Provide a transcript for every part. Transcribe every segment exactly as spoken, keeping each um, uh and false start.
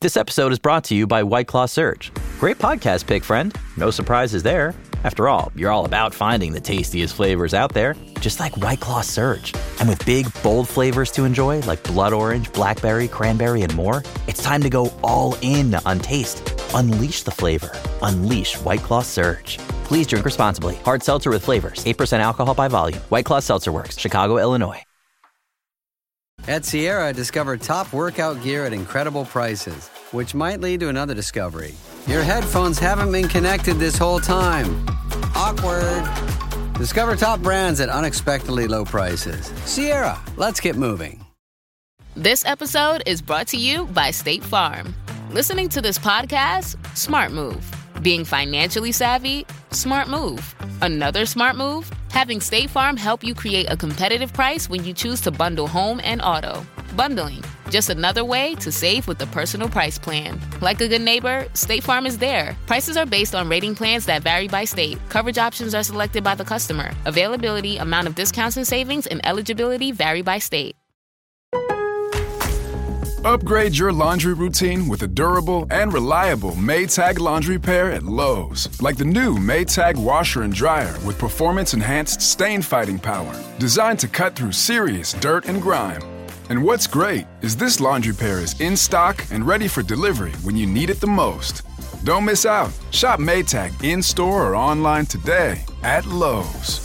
This episode is brought to you by White Claw Surge. Great podcast pick, friend. No surprises there. After all, you're all about finding the tastiest flavors out there, just like White Claw Surge. And with big, bold flavors to enjoy, like blood orange, blackberry, cranberry, and more, it's time to go all in on taste. Unleash the flavor. Unleash White Claw Surge. Please drink responsibly. Hard seltzer with flavors. eight percent alcohol by volume. White Claw Seltzer Works. Chicago, Illinois. At Sierra, discover top workout gear at incredible prices, which might lead to another discovery. Your headphones haven't been connected this whole time. Awkward. Discover top brands at unexpectedly low prices. Sierra, let's get moving. This episode is brought to you by State Farm. Listening to this podcast? Smart move. Being financially savvy? Smart move. Another smart move? Having State Farm help you create a competitive price when you choose to bundle home and auto. Bundling, just another way to save with the Personal Price Plan. Like a good neighbor, State Farm is there. Prices are based on rating plans that vary by state. Coverage options are selected by the customer. Availability, amount of discounts and savings, and eligibility vary by state. Upgrade your laundry routine with a durable and reliable Maytag laundry pair at Lowe's. Like the new Maytag washer and dryer with performance-enhanced stain-fighting power. Designed to cut through serious dirt and grime. And what's great is this laundry pair is in stock and ready for delivery when you need it the most. Don't miss out. Shop Maytag in-store or online today at Lowe's.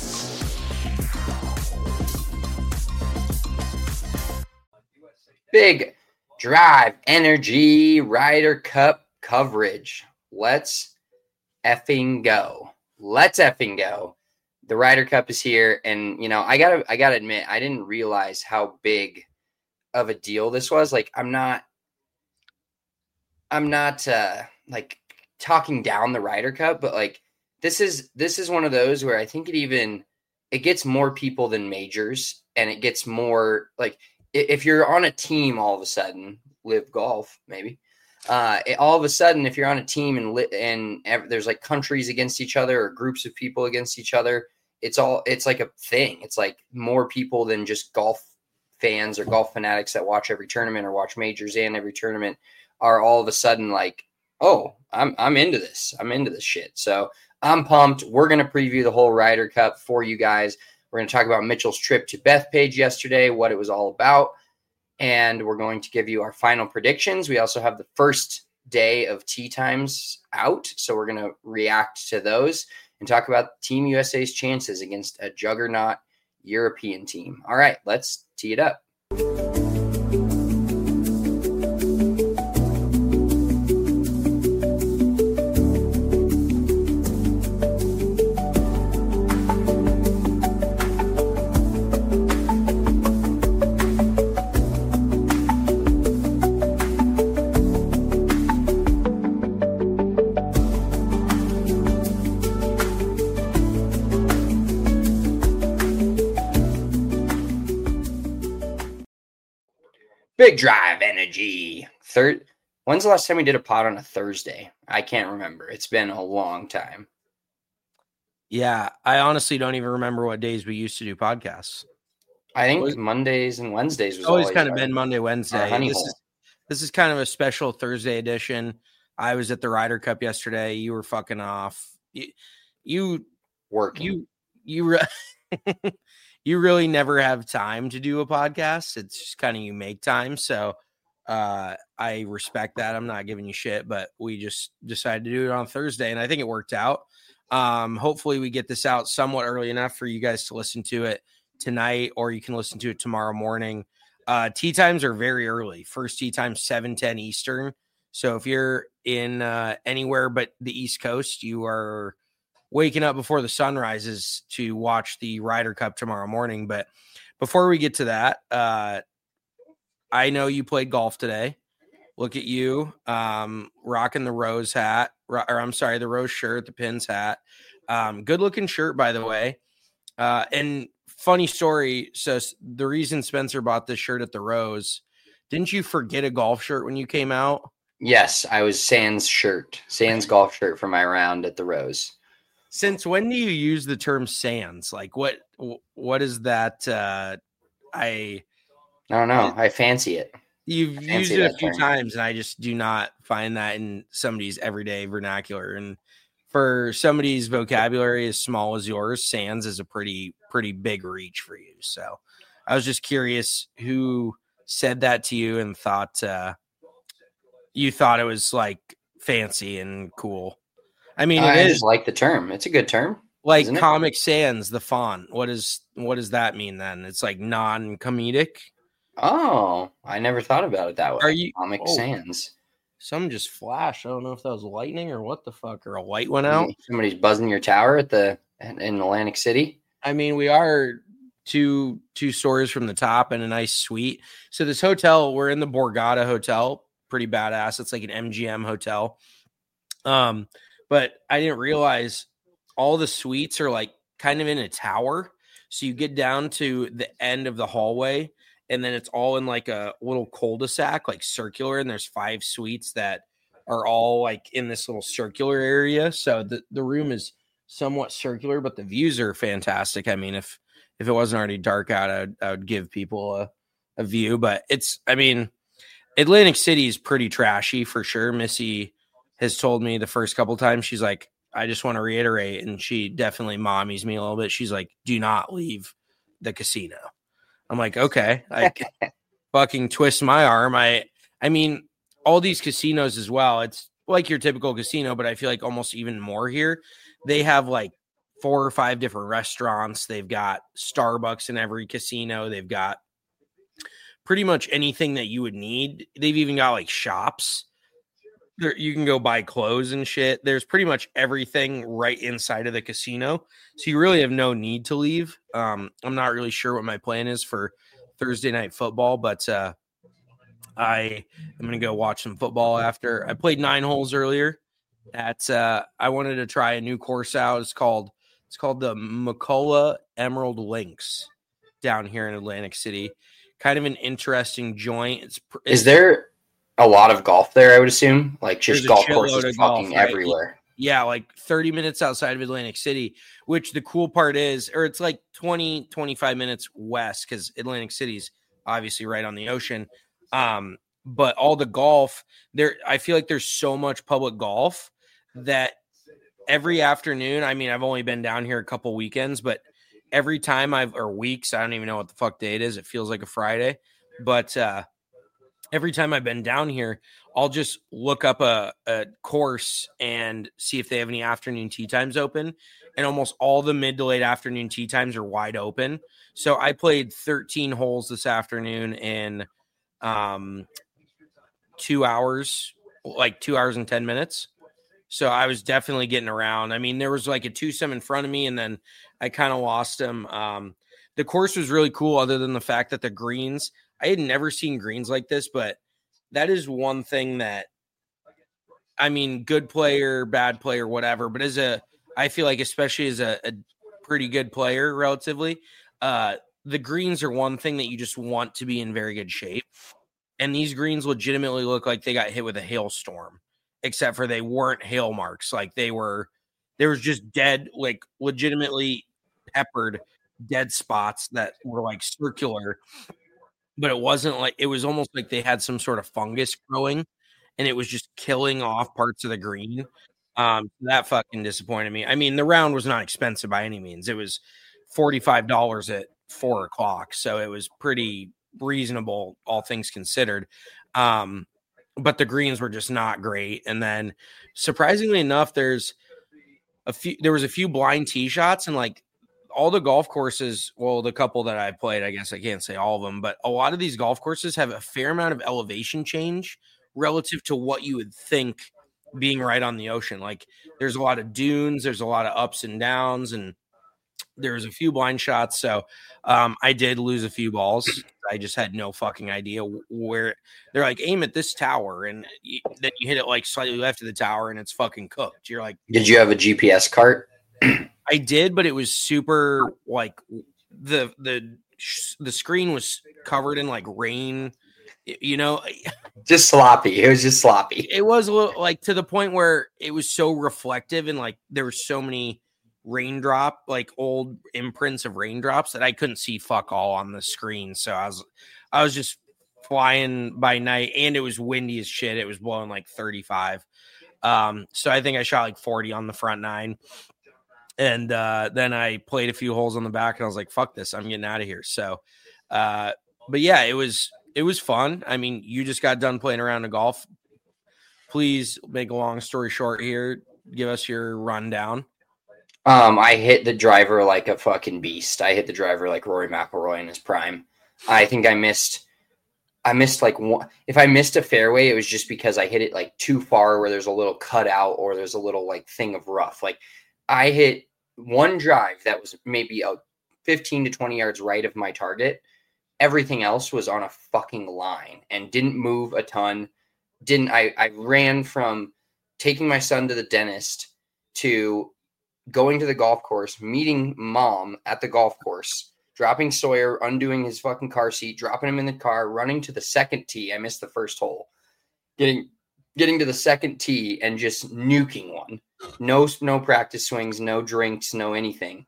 Big Drive Energy Ryder Cup coverage. Let's effing go. Let's effing go. The Ryder Cup is here, and you know, I gotta I gotta admit, I didn't realize how big of a deal this was. Like, I'm not I'm not uh like talking down the Ryder Cup, but like this is this is one of those where I think it even it gets more people than majors, and it gets more like if you're on a team all of a sudden, Live Golf maybe, uh, it, all of a sudden, if you're on a team and li- and ev- there's like countries against each other or groups of people against each other, it's all it's like a thing. It's like more people than just golf fans or golf fanatics that watch every tournament or watch majors and every tournament are all of a sudden like, oh, I'm I'm into this. I'm into this shit. So I'm pumped. We're gonna preview the whole Ryder Cup for you guys. We're going to talk about Mitchell's trip to Bethpage yesterday, what it was all about, and we're going to give you our final predictions. We also have the first day of tee times out, so we're going to react to those and talk about Team U S A's chances against a juggernaut European team. All right, let's tee it up. Big Drive Energy. Third. When's the last time we did a pod on a Thursday? I can't remember. It's been a long time. Yeah, I honestly don't even remember what days we used to do podcasts. I think was, Mondays and Wednesdays was always, always kind of been Monday, Wednesday. This is, this is kind of a special Thursday edition. I was at the Ryder Cup yesterday. You were fucking off. You, you working. You you. Re- You really never have time to do a podcast. It's just kind of you make time. So uh, I respect that. I'm not giving you shit, but we just decided to do it on Thursday, and I think it worked out. Um, hopefully we get this out somewhat early enough for you guys to listen to it tonight, or you can listen to it tomorrow morning. Uh, tee times are very early. First tee time, seven ten Eastern. So if you're in uh, anywhere but the East Coast, you are waking up before the sun rises to watch the Ryder Cup tomorrow morning. But before we get to that, uh, I know you played golf today. Look at you, um, rocking the rose hat, or I'm sorry, the rose shirt, the pins hat. Um, good looking shirt, by the way. Uh, and funny story. So the reason Spencer bought this shirt at the Rose, didn't you forget a golf shirt when you came out? Yes, I was Sans shirt, Sans golf shirt for my round at the Rose. Since when do you use the term Sans? Like what, what is that? Uh, I, I don't know. I fancy it. You've used it a few term. times, and I just do not find that in somebody's everyday vernacular. And for somebody's vocabulary as small as yours, sans is a pretty, pretty big reach for you. So I was just curious who said that to you and thought uh, you thought it was like fancy and cool. I mean, I it just is like the term. It's a good term. Like Comic Sans, the font. What is what does that mean then? It's like non-comedic. Oh, I never thought about it that way. Are you Comic oh, Sans? Some just flashed. I don't know if that was lightning or what the fuck, or a light went out. Somebody's buzzing your tower at the in Atlantic City. I mean, we are two two stories from the top and a nice suite. So this hotel, we're in the Borgata Hotel, pretty badass. It's like an M G M hotel. Um, but I didn't realize all the suites are like kind of in a tower. So you get down to the end of the hallway, and then it's all in like a little cul-de-sac, like circular. And there's five suites that are all like in this little circular area. So the, the room is somewhat circular, but the views are fantastic. I mean, if, if it wasn't already dark out, I would, I would give people a, a view, but it's, I mean, Atlantic City is pretty trashy for sure. Missy has told me the first couple times, she's like, I just want to reiterate, and she definitely mommies me a little bit. She's like, do not leave the casino. I'm like, okay, I fucking twist my arm. I, I mean, all these casinos as well. It's like your typical casino, but I feel like almost even more here. They have like four or five different restaurants. They've got Starbucks in every casino. They've got pretty much anything that you would need. They've even got like shops. There, you can go buy clothes and shit. There's pretty much everything right inside of the casino. So you really have no need to leave. Um, I'm not really sure what my plan is for Thursday night football, but uh, I am going to go watch some football after. I played nine holes earlier. At uh, I wanted to try a new course out. It's called it's called the McCullough Emerald Links down here in Atlantic City. Kind of an interesting joint. It's, it's is there a lot of golf there? I would assume, like just golf courses fucking golf, right? everywhere. Yeah, like thirty minutes outside of Atlantic City. Which the cool part is, or it's like twenty, twenty-five minutes west because Atlantic City's obviously right on the ocean. Um, but all the golf there, I feel like there's so much public golf that every afternoon, I mean, I've only been down here a couple weekends, but every time I've, or weeks, I don't even know what the fuck day it is. It feels like a Friday, but uh, every time I've been down here, I'll just look up a, a course and see if they have any afternoon tee times open. And almost all the mid to late afternoon tee times are wide open. So I played thirteen holes this afternoon in um, two hours, like two hours and ten minutes. So I was definitely getting around. I mean, there was like a twosome in front of me, and then I kind of lost him. Um, the course was really cool, other than the fact that the greens, I had never seen greens like this, but that is one thing that, I mean, good player, bad player, whatever. But as a, I feel like, especially as a, a pretty good player, relatively, uh, the greens are one thing that you just want to be in very good shape. And these greens legitimately look like they got hit with a hailstorm, except for they weren't hail marks. Like they were, there was just dead, like legitimately peppered dead spots that were like circular. But it wasn't like, it was almost like they had some sort of fungus growing and it was just killing off parts of the green. Um, that fucking disappointed me. I mean, the round was not expensive by any means. It was forty-five dollars at four o'clock. So it was pretty reasonable, all things considered. Um, but the greens were just not great. And then surprisingly enough, there's a few, there was a few blind tee shots, and like, all the golf courses, well, the couple that I played, I guess I can't say all of them, but a lot of these golf courses have a fair amount of elevation change relative to what you would think being right on the ocean. Like there's a lot of dunes, there's a lot of ups and downs, and there's a few blind shots. So um, I did lose a few balls. I just had no fucking idea where. They're like, aim at this tower, and you, then you hit it like slightly left of the tower and it's fucking cooked. You're like, did you have a G P S cart? I did, but it was super like the the the screen was covered in like rain, you know, just sloppy. It was just sloppy. It was a little like to the point where it was so reflective, and like there were so many raindrop, like old imprints of raindrops, that I couldn't see fuck all on the screen. So I was I was just flying by night, and it was windy as shit. It was blowing like thirty-five. Um, so I think I shot like forty on the front nine. And uh, then I played a few holes on the back, and I was like, fuck this, I'm getting out of here. So, uh, but yeah, it was it was fun. I mean, you just got done playing around the golf. Please make a long story short here. Give us your rundown. Um, I hit the driver like a fucking beast. I hit the driver like Rory McIlroy in his prime. I think I missed, I missed like one. If I missed a fairway, it was just because I hit it like too far where there's a little cutout or there's a little like thing of rough. Like I hit one drive that was maybe a fifteen to twenty yards right of my target. Everything else was on a fucking line and didn't move a ton. Didn't I, I ran from taking my son to the dentist to going to the golf course, meeting mom at the golf course, dropping Sawyer, undoing his fucking car seat, dropping him in the car, running to the second tee. I missed the first hole. Getting getting to the second tee and just nuking one. No, no practice swings, no drinks, no anything.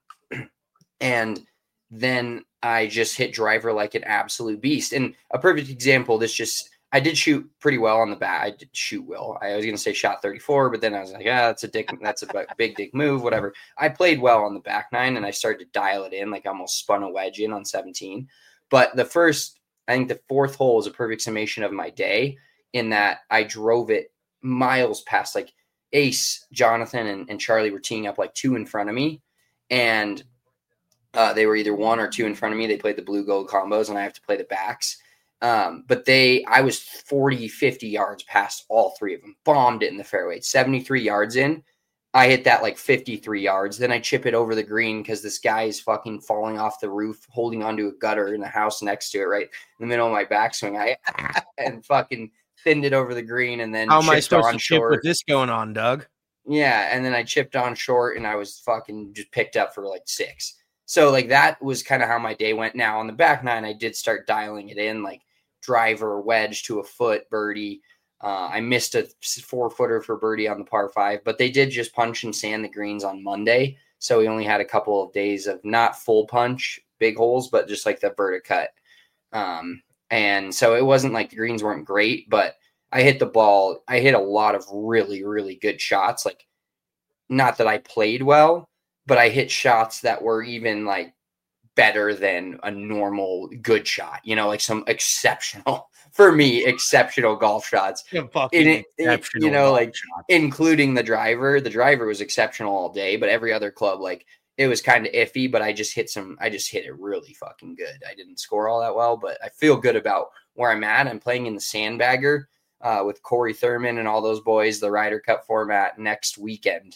And then I just hit driver like an absolute beast. And a perfect example, this just I did shoot pretty well on the bat. I did shoot well. I was going to say shot thirty-four, but then I was like, ah, that's a dick. That's a big dick move, whatever. I played well on the back nine, and I started to dial it in. Like I almost spun a wedge in on seventeen. But the first, I think the fourth hole is a perfect summation of my day in that I drove it miles past. Like Ace, Jonathan, and, and Charlie were teeing up like two in front of me. And uh, they were either one or two in front of me. They played the blue gold combos, and I have to play the backs. Um, but they, I was forty, fifty yards past all three of them, bombed it in the fairway, seventy-three yards in. I hit that like fifty-three yards. Then I chip it over the green because this guy is fucking falling off the roof, holding onto a gutter in the house next to it, right in the middle of my backswing. I and fucking thinned it over the green, and then how am I supposed on to chip short. with this going on, Doug? Yeah, and then I chipped on short, and I was fucking just picked up for like six. So like that was kind of how my day went. Now on the back nine, I did start dialing it in, like driver, wedge to a foot, birdie. Uh, I missed a four footer for birdie on the par five, but they did just punch and sand the greens on Monday. So we only had a couple of days of not full punch, big holes, but just like the verti cut. Um, and so it wasn't like the greens weren't great, but I hit the ball. I hit a lot of really, really good shots. Like not that I played well, but I hit shots that were even like better than a normal good shot, you know, like some exceptional, for me, exceptional golf shots. In it, you know, like shots. Including the driver. The driver was exceptional all day, but every other club, like it was kind of iffy, but I just hit some, I just hit it really fucking good. I didn't score all that well, but I feel good about where I'm at. I'm playing in the Sandbagger uh, with Corey Thurman and all those boys, the Ryder Cup format next weekend.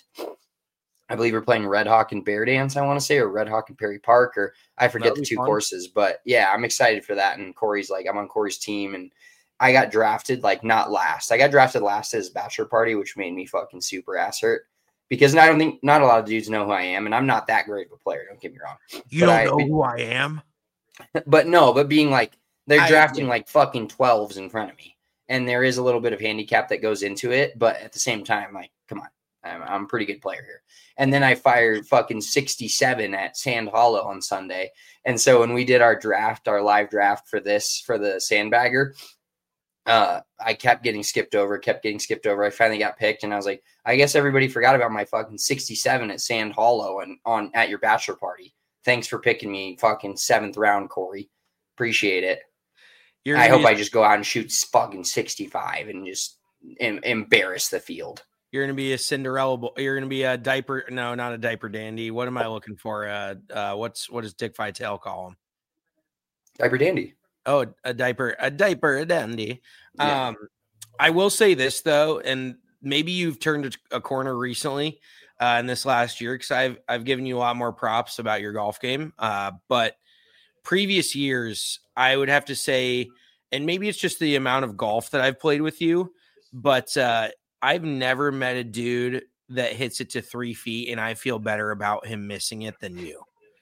I believe we're playing Red Hawk and Bear Dance, I want to say, or Red Hawk and Perry Park, or I forget the two fun. courses. But yeah, I'm excited for that. And Corey's like, I'm on Corey's team, and I got drafted like not last. I got drafted last at his bachelor party, which made me fucking super ass hurt because I don't think not a lot of dudes know who I am, and I'm not that great of a player. Don't get me wrong. You but don't I, know who I am, but no, but being like they're I, drafting yeah. like fucking twelves in front of me, and there is a little bit of handicap that goes into it, but at the same time, like, come on. I'm, I'm a pretty good player here. And then I fired fucking sixty-seven at Sand Hollow on Sunday. And so when we did our draft, our live draft for this, for the Sandbagger, uh, I kept getting skipped over, kept getting skipped over. I finally got picked, and I was like, I guess everybody forgot about my fucking sixty-seven at Sand Hollow and on at your bachelor party. Thanks for picking me fucking seventh round, Corey. Appreciate it. You're I hope I just go out and shoot fucking sixty-five and just em- embarrass the field. You're going to be a Cinderella. You're going to be a diaper. No, not a diaper dandy. What am I looking for? Uh, uh, what's, what does Dick Vitale call him? Diaper dandy. Oh, a diaper, a diaper, a dandy. Yeah. Um, I will say this though, and maybe you've turned a corner recently uh, in this last year, because I've, I've given you a lot more props about your golf game. Uh, but previous years, I would have to say, and maybe it's just the amount of golf that I've played with you, but uh, I've never met a dude that hits it to three feet and I feel better about him missing it than you.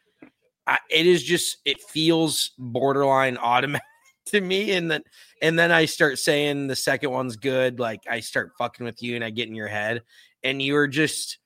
I, it is just, it feels borderline automatic to me. And then, and then I start saying the second one's good. Like I start fucking with you and I get in your head and you're just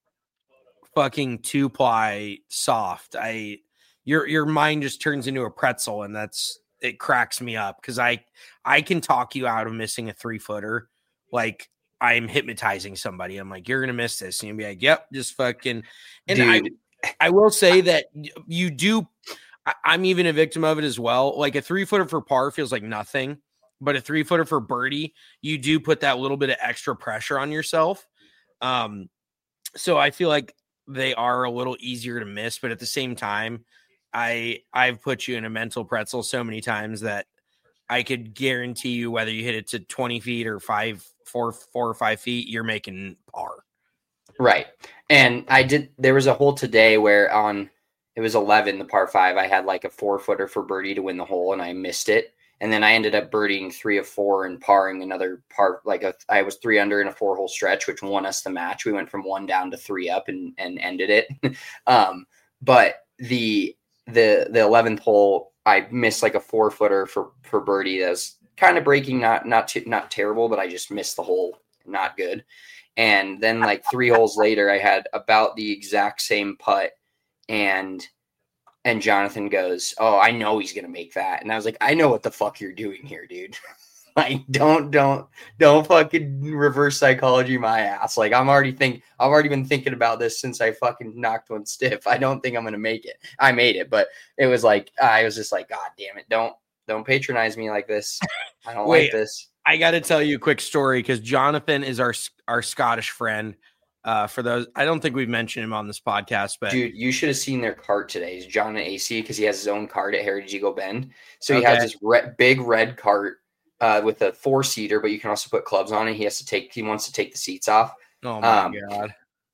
fucking two ply soft. I, your, your mind just turns into a pretzel, and that's, it cracks me up because I I can talk you out of missing a three footer like I'm hypnotizing somebody. I'm like, you're gonna miss this, and you'll be like, yep, just fucking. And Dude. I I will say that you do. I, I'm even a victim of it as well. Like a three footer for par feels like nothing, but a three footer for birdie, you do put that little bit of extra pressure on yourself. Um, so I feel like they are a little easier to miss, but at the same time, I I've put you in a mental pretzel so many times that I could guarantee you whether you hit it to twenty feet or five, four, four or five feet, you're making par. Right. And I did, there was a hole today where on, it was eleven, the par five, I had like a four footer for birdie to win the hole and I missed it. And then I ended up birdieing three of four and parring another par, like a, I was three under in a four hole stretch, which won us the match. We went from one down to three up and, and ended it. um, but the, the, the eleventh hole, I missed like a four footer for, for birdie. That was kind of breaking, not, not, too, not terrible, but I just missed the hole. Not good. And then like three holes later, I had about the exact same putt, and and Jonathan goes, "Oh, I know he's gonna make that." And I was like, "I know what the fuck you're doing here, dude. Like, don't don't don't fucking reverse psychology my ass. Like, I'm already think I've already been thinking about this since I fucking knocked one stiff. I don't think I'm gonna make it. I made it, but it was like I was just like, God damn it, don't don't patronize me like this. I don't Wait. like this." I got to tell you a quick story because Jonathan is our our Scottish friend. Uh, for those, I don't think we've mentioned him on this podcast, but dude, you should have seen their cart today. He's John and A C because he has his own cart at Heritage Eagle Bend. So he Okay. has this red, big red cart uh, with a four seater, but you can also put clubs on it. He has to take. He wants to take the seats off. oh my Um, god,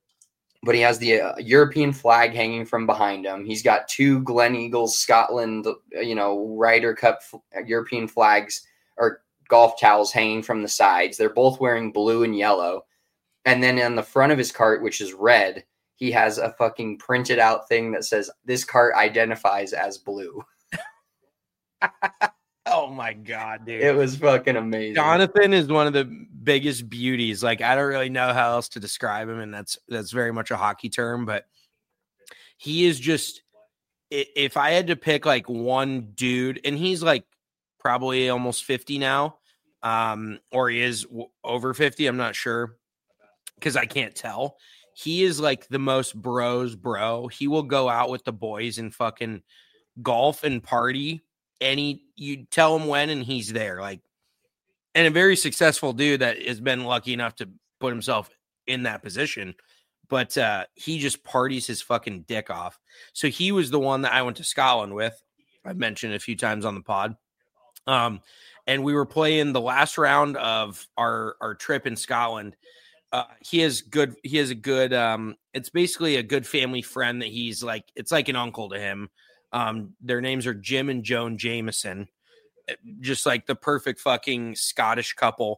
But he has the uh, European flag hanging from behind him. He's got two Glen Eagles Scotland, you know, Ryder Cup f- European flags or golf towels hanging from the sides. They're both wearing blue and yellow. And then on the front of his cart, which is red, he has a fucking printed out thing that says this cart identifies as blue. oh my god, dude! It was fucking amazing. Jonathan is one of the biggest beauties. Like, I don't really know how else to describe him, and that's that's very much a hockey term, but he is just. If I had to pick like one dude, and he's like probably almost fifty now, um, or he is w- over fifty, I'm not sure because I can't tell. He is like the most bros bro. He will go out with the boys and fucking golf and party. And he, you tell him when, and he's there. Like, and a very successful dude that has been lucky enough to put himself in that position. But uh, he just parties his fucking dick off. So he was the one that I went to Scotland with. I've mentioned a few times on the pod. Um, and we were playing the last round of our our trip in Scotland. Uh, he has good. He has a good. Um, it's basically a good family friend that he's like. It's like an uncle to him. Um, their names are Jim and Joan Jameson, just like the perfect fucking Scottish couple.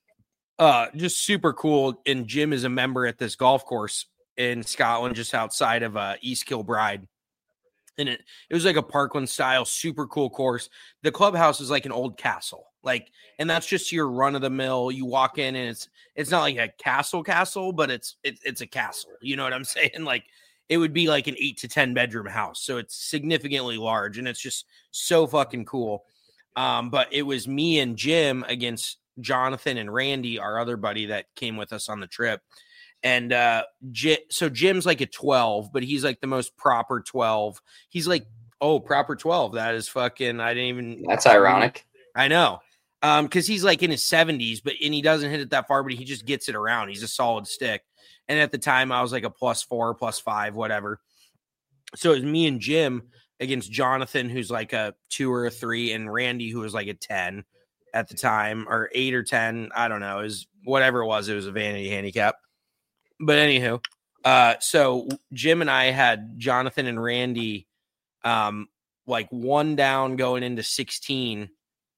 Uh, just super cool. And Jim is a member at this golf course in Scotland, just outside of uh, East Kilbride. And it, it was like a Parkland style, super cool course. The clubhouse is like an old castle. Like, and that's just your run of the mill. You walk in and it's, it's not like a castle castle, but it's, it, it's a castle. You know what I'm saying? Like, it would be like an eight to ten bedroom house. So it's significantly large and it's just so fucking cool. Um, but it was me and Jim against Jonathan and Randy, our other buddy that came with us on the trip. And uh, J- so Jim's like a twelve, but he's like the most proper twelve. He's like, oh, proper twelve. That is fucking, I didn't even. That's ironic. I know. Um, because he's like in his seventies, but and he doesn't hit it that far, but he just gets it around. He's a solid stick. And at the time, I was like a plus four, plus five, whatever. So it was me and Jim against Jonathan, who's like a two or a three, and Randy, who was like a ten at the time, or eight or ten. I don't know. It was whatever it was. It was a vanity handicap. But anywho, uh, so Jim and I had Jonathan and Randy um, like one down going into sixteen.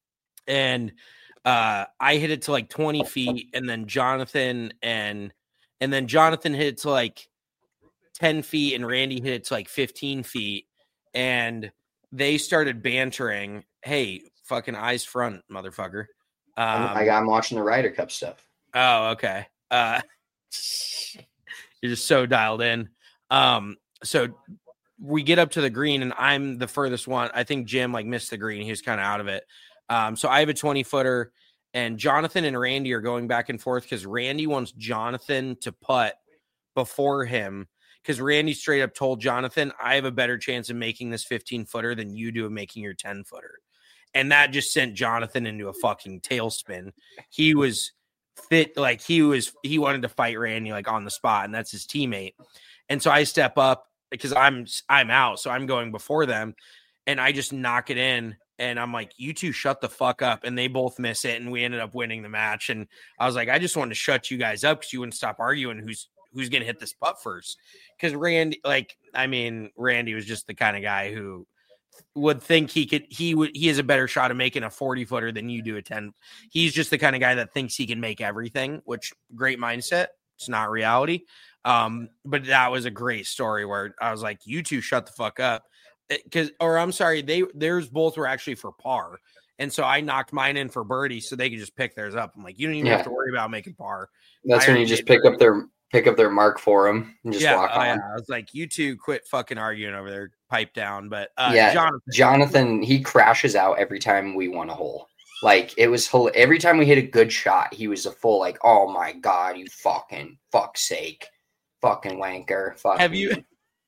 And uh, I hit it to like twenty feet, and then Jonathan and and then Jonathan hit it to like ten feet, and Randy hit it to like fifteen feet. And they started bantering, hey, fucking eyes front, motherfucker. Um, I, I'm watching the Ryder Cup stuff. Oh, okay. Uh, you're just so dialed in. Um, so we get up to the green, and I'm the furthest one. I think Jim like missed the green. He was kind of out of it. Um, so I have a twenty footer, and Jonathan and Randy are going back and forth because Randy wants Jonathan to putt before him. Because Randy straight up told Jonathan, I have a better chance of making this fifteen footer than you do of making your ten footer. And that just sent Jonathan into a fucking tailspin. He was fit, like he was, he wanted to fight Randy like on the spot, and that's his teammate. And so I step up because I'm, I'm out. So I'm going before them, and I just knock it in. And I'm like, you two shut the fuck up. And they both miss it. And we ended up winning the match. And I was like, I just wanted to shut you guys up because you wouldn't stop arguing who's, who's going to hit this putt first. Because Randy, like, I mean, Randy was just the kind of guy who would think he could, he would, he has a better shot of making a forty footer than you do a ten. He's just the kind of guy that thinks he can make everything, which great mindset. It's not reality. Um, but that was a great story where I was like, you two shut the fuck up. Because, or I'm sorry, they, theirs both were actually for par. And so I knocked mine in for birdie so they could just pick theirs up. I'm like, you don't even yeah. have to worry about making par. That's I when you just pick birdie. up their, pick up their mark for them and just yeah, walk uh, on. Yeah. I was like, you two quit fucking arguing over there, pipe down. But uh, yeah, Jonathan, Jonathan, he crashes out every time we won a hole. Like it was whole, every time we hit a good shot, he was a full like, oh my God, you fucking fuck's sake, fucking wanker. Fucking. Have you,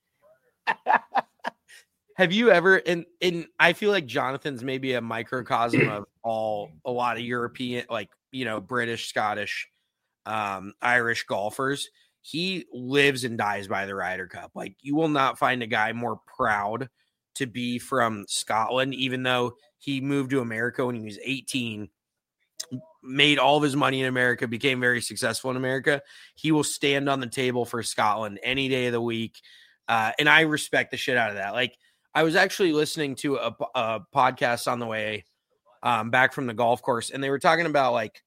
have you ever, and, and I feel like Jonathan's maybe a microcosm of all, a lot of European, like, you know, British, Scottish, um, Irish golfers. He lives and dies by the Ryder Cup. Like you will not find a guy more proud to be from Scotland, even though he moved to America when he was eighteen, made all of his money in America, became very successful in America. He will stand on the table for Scotland any day of the week. Uh, and I respect the shit out of that. Like I was actually listening to a, a podcast on the way um, back from the golf course, and they were talking about like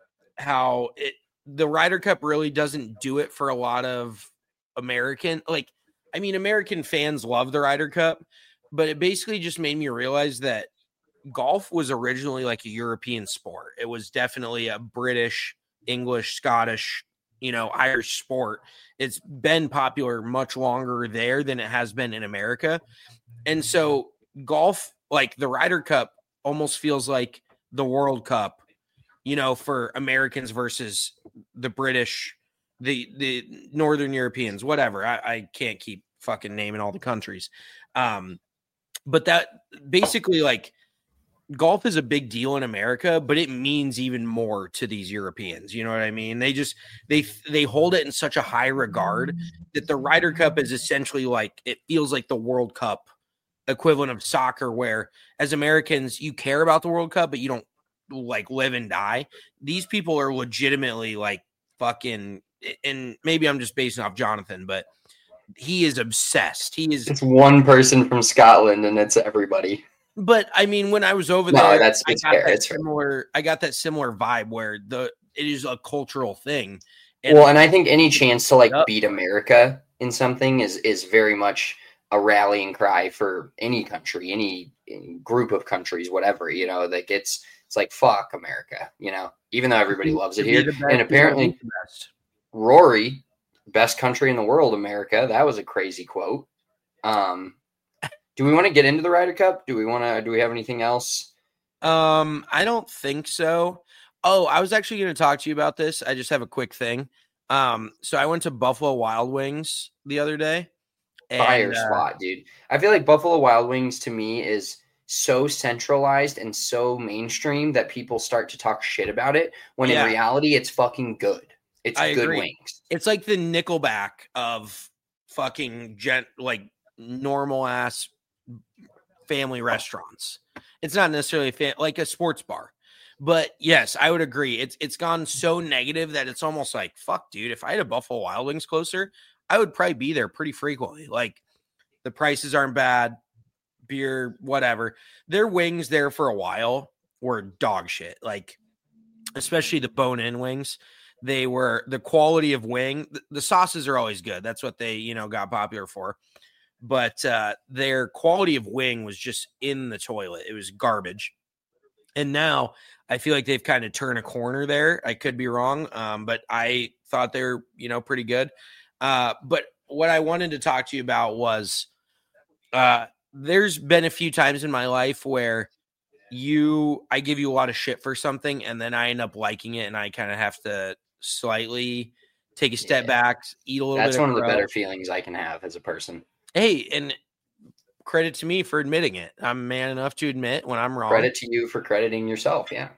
how it, the Ryder Cup really doesn't do it for a lot of American, like, I mean, American fans love the Ryder Cup, but it basically just made me realize that golf was originally like a European sport. It was definitely a British, English, Scottish, you know, Irish sport. It's been popular much longer there than it has been in America. And so golf, like the Ryder Cup almost feels like the World Cup, you know, for Americans versus the British, the the Northern Europeans, whatever. I, I can't keep fucking naming all the countries. Um, but that basically like golf is a big deal in America, but it means even more to these Europeans. You know what I mean? They just, they, they hold it in such a high regard that the Ryder Cup is essentially like, it feels like the World Cup equivalent of soccer, where as Americans, you care about the World Cup, but you don't like live and die. These people are legitimately like fucking, and maybe I'm just basing off Jonathan, but he is obsessed. He is. It's one person from Scotland and it's everybody. But I mean, when I was over no, there, that's, I it's got fair. that It's similar. Fair. I got that similar vibe where the it is a cultural thing. And well, and I think any chance to like yep. beat America in something is is very much a rallying cry for any country, any, any group of countries, whatever. You know, like it's it's like fuck America. You know, even though everybody loves it here, and apparently Rory, best country in the world, America. That was a crazy quote. Um. Do we want to get into the Ryder Cup? Do we want to? Do we have anything else? Um, I don't think so. Oh, I was actually going to talk to you about this. I just have a quick thing. Um, so I went to Buffalo Wild Wings the other day. And, Fire uh, spot, dude. I feel like Buffalo Wild Wings to me is so centralized and so mainstream that people start to talk shit about it when yeah. in reality it's fucking good. It's I good agree. wings. It's like the Nickelback of fucking gent, like normal ass family restaurants. It's not necessarily a fan, like a sports bar, but yes, I would agree. It's it's gone so negative that it's almost like fuck, dude. If I had a Buffalo Wild Wings closer, I would probably be there pretty frequently. Like the prices aren't bad, beer, whatever. Their wings there for a while were dog shit. Like especially the bone-in wings. They were the quality of wing. The, the sauces are always good. That's what they you know got popular for. But uh, their quality of wing was just in the toilet. It was garbage. And now I feel like they've kind of turned a corner there. I could be wrong, um, but I thought they were, you know, pretty good. Uh, but what I wanted to talk to you about was Uh, there's been a few times in my life where you, I give you a lot of shit for something, and then I end up liking it, and I kind of have to slightly take a step Yeah. back, eat a little That's bit. one of of the crow. better feelings I can have as a person. Hey, and credit to me for admitting it. I'm man enough to admit when I'm wrong. Credit to you for crediting yourself. Yeah.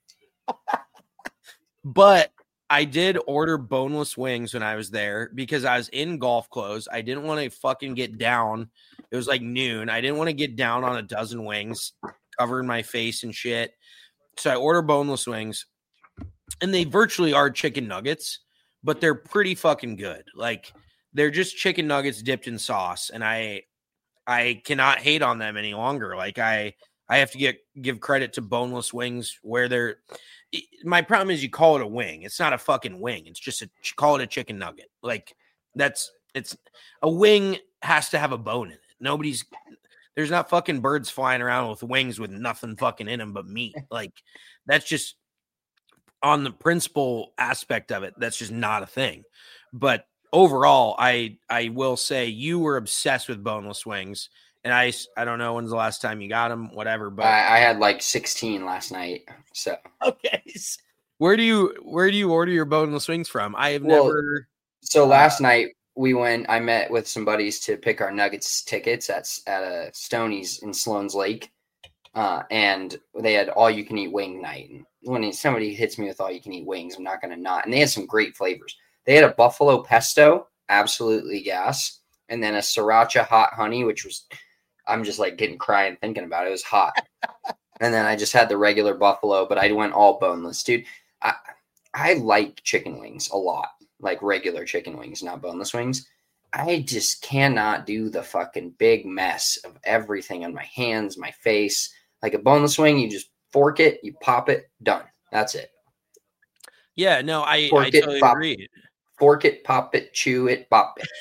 But I did order boneless wings when I was there because I was in golf clothes. I didn't want to fucking get down. It was like noon. I didn't want to get down on a dozen wings, covering my face and shit. So I ordered boneless wings, and they virtually are chicken nuggets, but they're pretty fucking good. Like, they're just chicken nuggets dipped in sauce, and I I cannot hate on them any longer. Like, I I have to get give credit to boneless wings where they're – my problem is you call it a wing. It's not a fucking wing. It's just a – call it a chicken nugget. Like, that's – it's – a wing has to have a bone in it. Nobody's – there's not fucking birds flying around with wings with nothing fucking in them but meat. Like, that's just – on the principal aspect of it, that's just not a thing. But overall, I I will say you were obsessed with boneless wings. And I, I don't know when's the last time you got them, whatever. But I, I had like sixteen last night. So okay, where do you where do you order your boneless wings from? I have well, never. So last uh, night we went. I met with some buddies to pick our Nuggets tickets at at a Stoney's in Sloan's Lake, uh, and they had all you can eat wing night. And when somebody hits me with all you can eat wings, I'm not going to not. And they had some great flavors. They had a buffalo pesto, absolutely gas, and then a sriracha hot honey, which was. I'm just like getting crying thinking about it. It was hot. And then I just had the regular buffalo, but I went all boneless, dude. I I like chicken wings a lot, like regular chicken wings, not boneless wings. I just cannot do the fucking big mess of everything on my hands, my face. Like a boneless wing, you just fork it, you pop it, done. That's it. Yeah, no, I, fork I it, totally pop, agree. Fork it, pop it, chew it, pop it.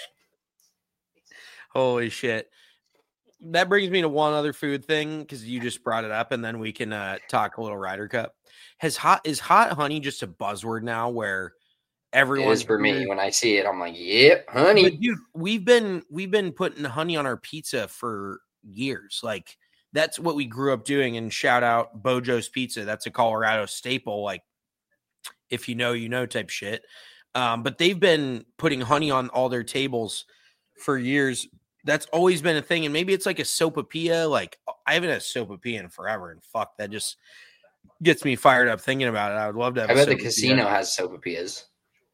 Holy shit. That brings me to one other food thing because you just brought it up, and then we can uh, talk a little Ryder Cup. Has hot is hot honey just a buzzword now where everyone it is for me? When I see it, I'm like, yep, honey. But dude, we've been we've been putting honey on our pizza for years. Like that's what we grew up doing. And shout out Bojo's Pizza. That's a Colorado staple. Like if you know, you know type shit. Um, but they've been putting honey on all their tables for years. That's always been a thing. And maybe it's like a sopapilla. Like I haven't had a sopapilla in forever. And fuck, that just gets me fired up thinking about it. I would love to have I a bet the sopapilla. casino has sopapillas.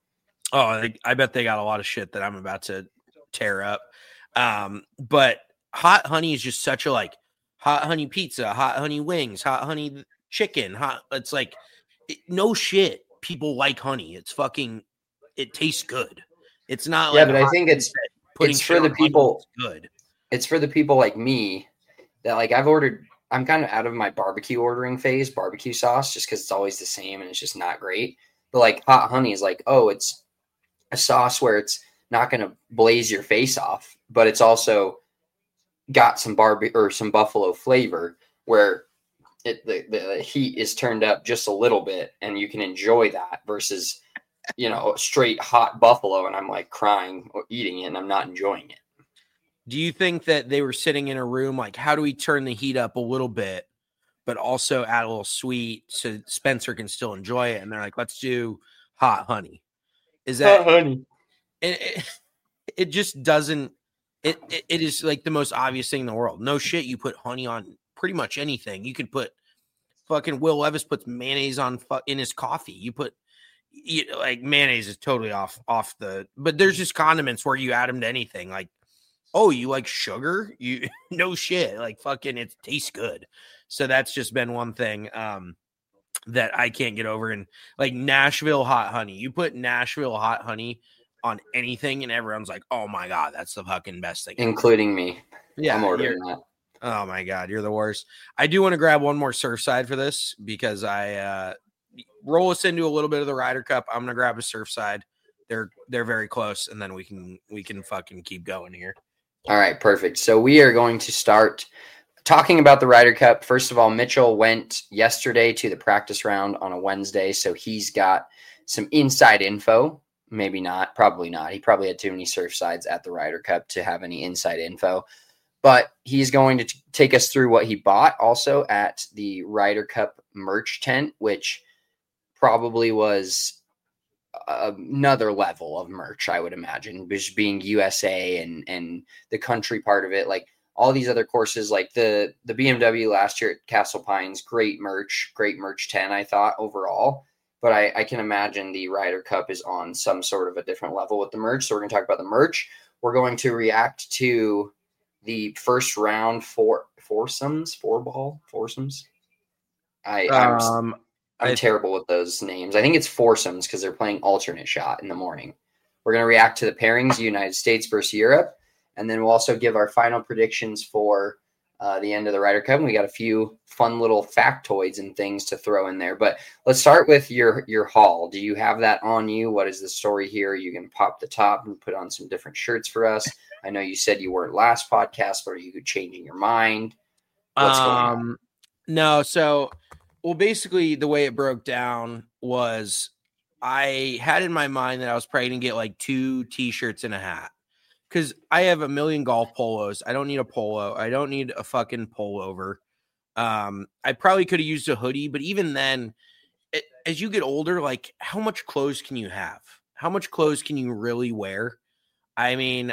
Oh, they, I bet they got a lot of shit that I'm about to tear up. Um, but hot honey is just such a like hot honey pizza, hot honey wings, hot honey chicken. Hot. It's like it, no shit. People like honey. It's fucking. It tastes good. It's not yeah, like but I think it's it's for the people. Good. It's for the people like me that like I've ordered. I'm kind of out of my barbecue ordering phase, barbecue sauce, just because it's always the same and it's just not great. But like hot honey is like, oh, it's a sauce where it's not going to blaze your face off, but it's also got some barbecue or some buffalo flavor where it the, the heat is turned up just a little bit and you can enjoy that versus, you know, straight hot buffalo. And I'm like crying or eating it and I'm not enjoying it. Do you think that they were sitting in a room like, how do we turn the heat up a little bit, but also add a little sweet so Spencer can still enjoy it? And they're like, let's do hot honey. Is that hot honey? It, it, it just doesn't. It, it it is like the most obvious thing in the world. No shit, you put honey on pretty much anything. You could put fucking Will Levis puts mayonnaise on fu- in his coffee. You put you, like mayonnaise is totally off off the. But there's just condiments where you add them to anything. Like, oh, you like sugar? You no shit. Like fucking, it tastes good. So that's just been one thing. Um. That I can't get over. And like Nashville hot honey, you put Nashville hot honey on anything and everyone's like, oh my God, that's the fucking best thing. Including me. Yeah. I'm ordering that. Oh my God, you're the worst. I do want to grab one more Surfside for this because I uh, roll us into a little bit of the Ryder Cup. I'm going to grab a Surfside. They're, they're very close. And then we can, we can fucking keep going here. All right, perfect. So we are going to start talking about the Ryder Cup. First of all, Mitchell went yesterday to the practice round on a Wednesday, so he's got some inside info. Maybe not, probably not. He probably had too many Surfsides at the Ryder Cup to have any inside info. but he's going to t- take us through what he bought also at the Ryder Cup merch tent, which probably was another level of merch, I would imagine, just being U S A and, and the country part of it. Like all these other courses, like the, the B M W last year at Castle Pines, great merch, great merch tent, I thought overall. But I, I can imagine the Ryder Cup is on some sort of a different level with the merch. So we're going to talk about the merch. We're going to react to the first round for foursomes, four ball foursomes. I, I'm, Um, I'm I- terrible with those names. I think it's foursomes because they're playing alternate shot in the morning. We're going to react to the pairings, United States versus Europe. And then we'll also give our final predictions for Uh, the end of the Ryder Cup. And we got a few fun little factoids and things to throw in there. But let's start with your your haul. Do you have that on you? What is the story here? You can pop the top and put on some different shirts for us. I know you said you weren't last podcast, but are you changing your mind? What's um, going on? No, so well, basically the way it broke down was I had in my mind that I was probably gonna get like two t-shirts and a hat. Because I have a million golf polos. I don't need a polo. I don't need a fucking pullover. Um, I probably could have used a hoodie, but even then, it, as you get older, like how much clothes can you have? How much clothes can you really wear? I mean,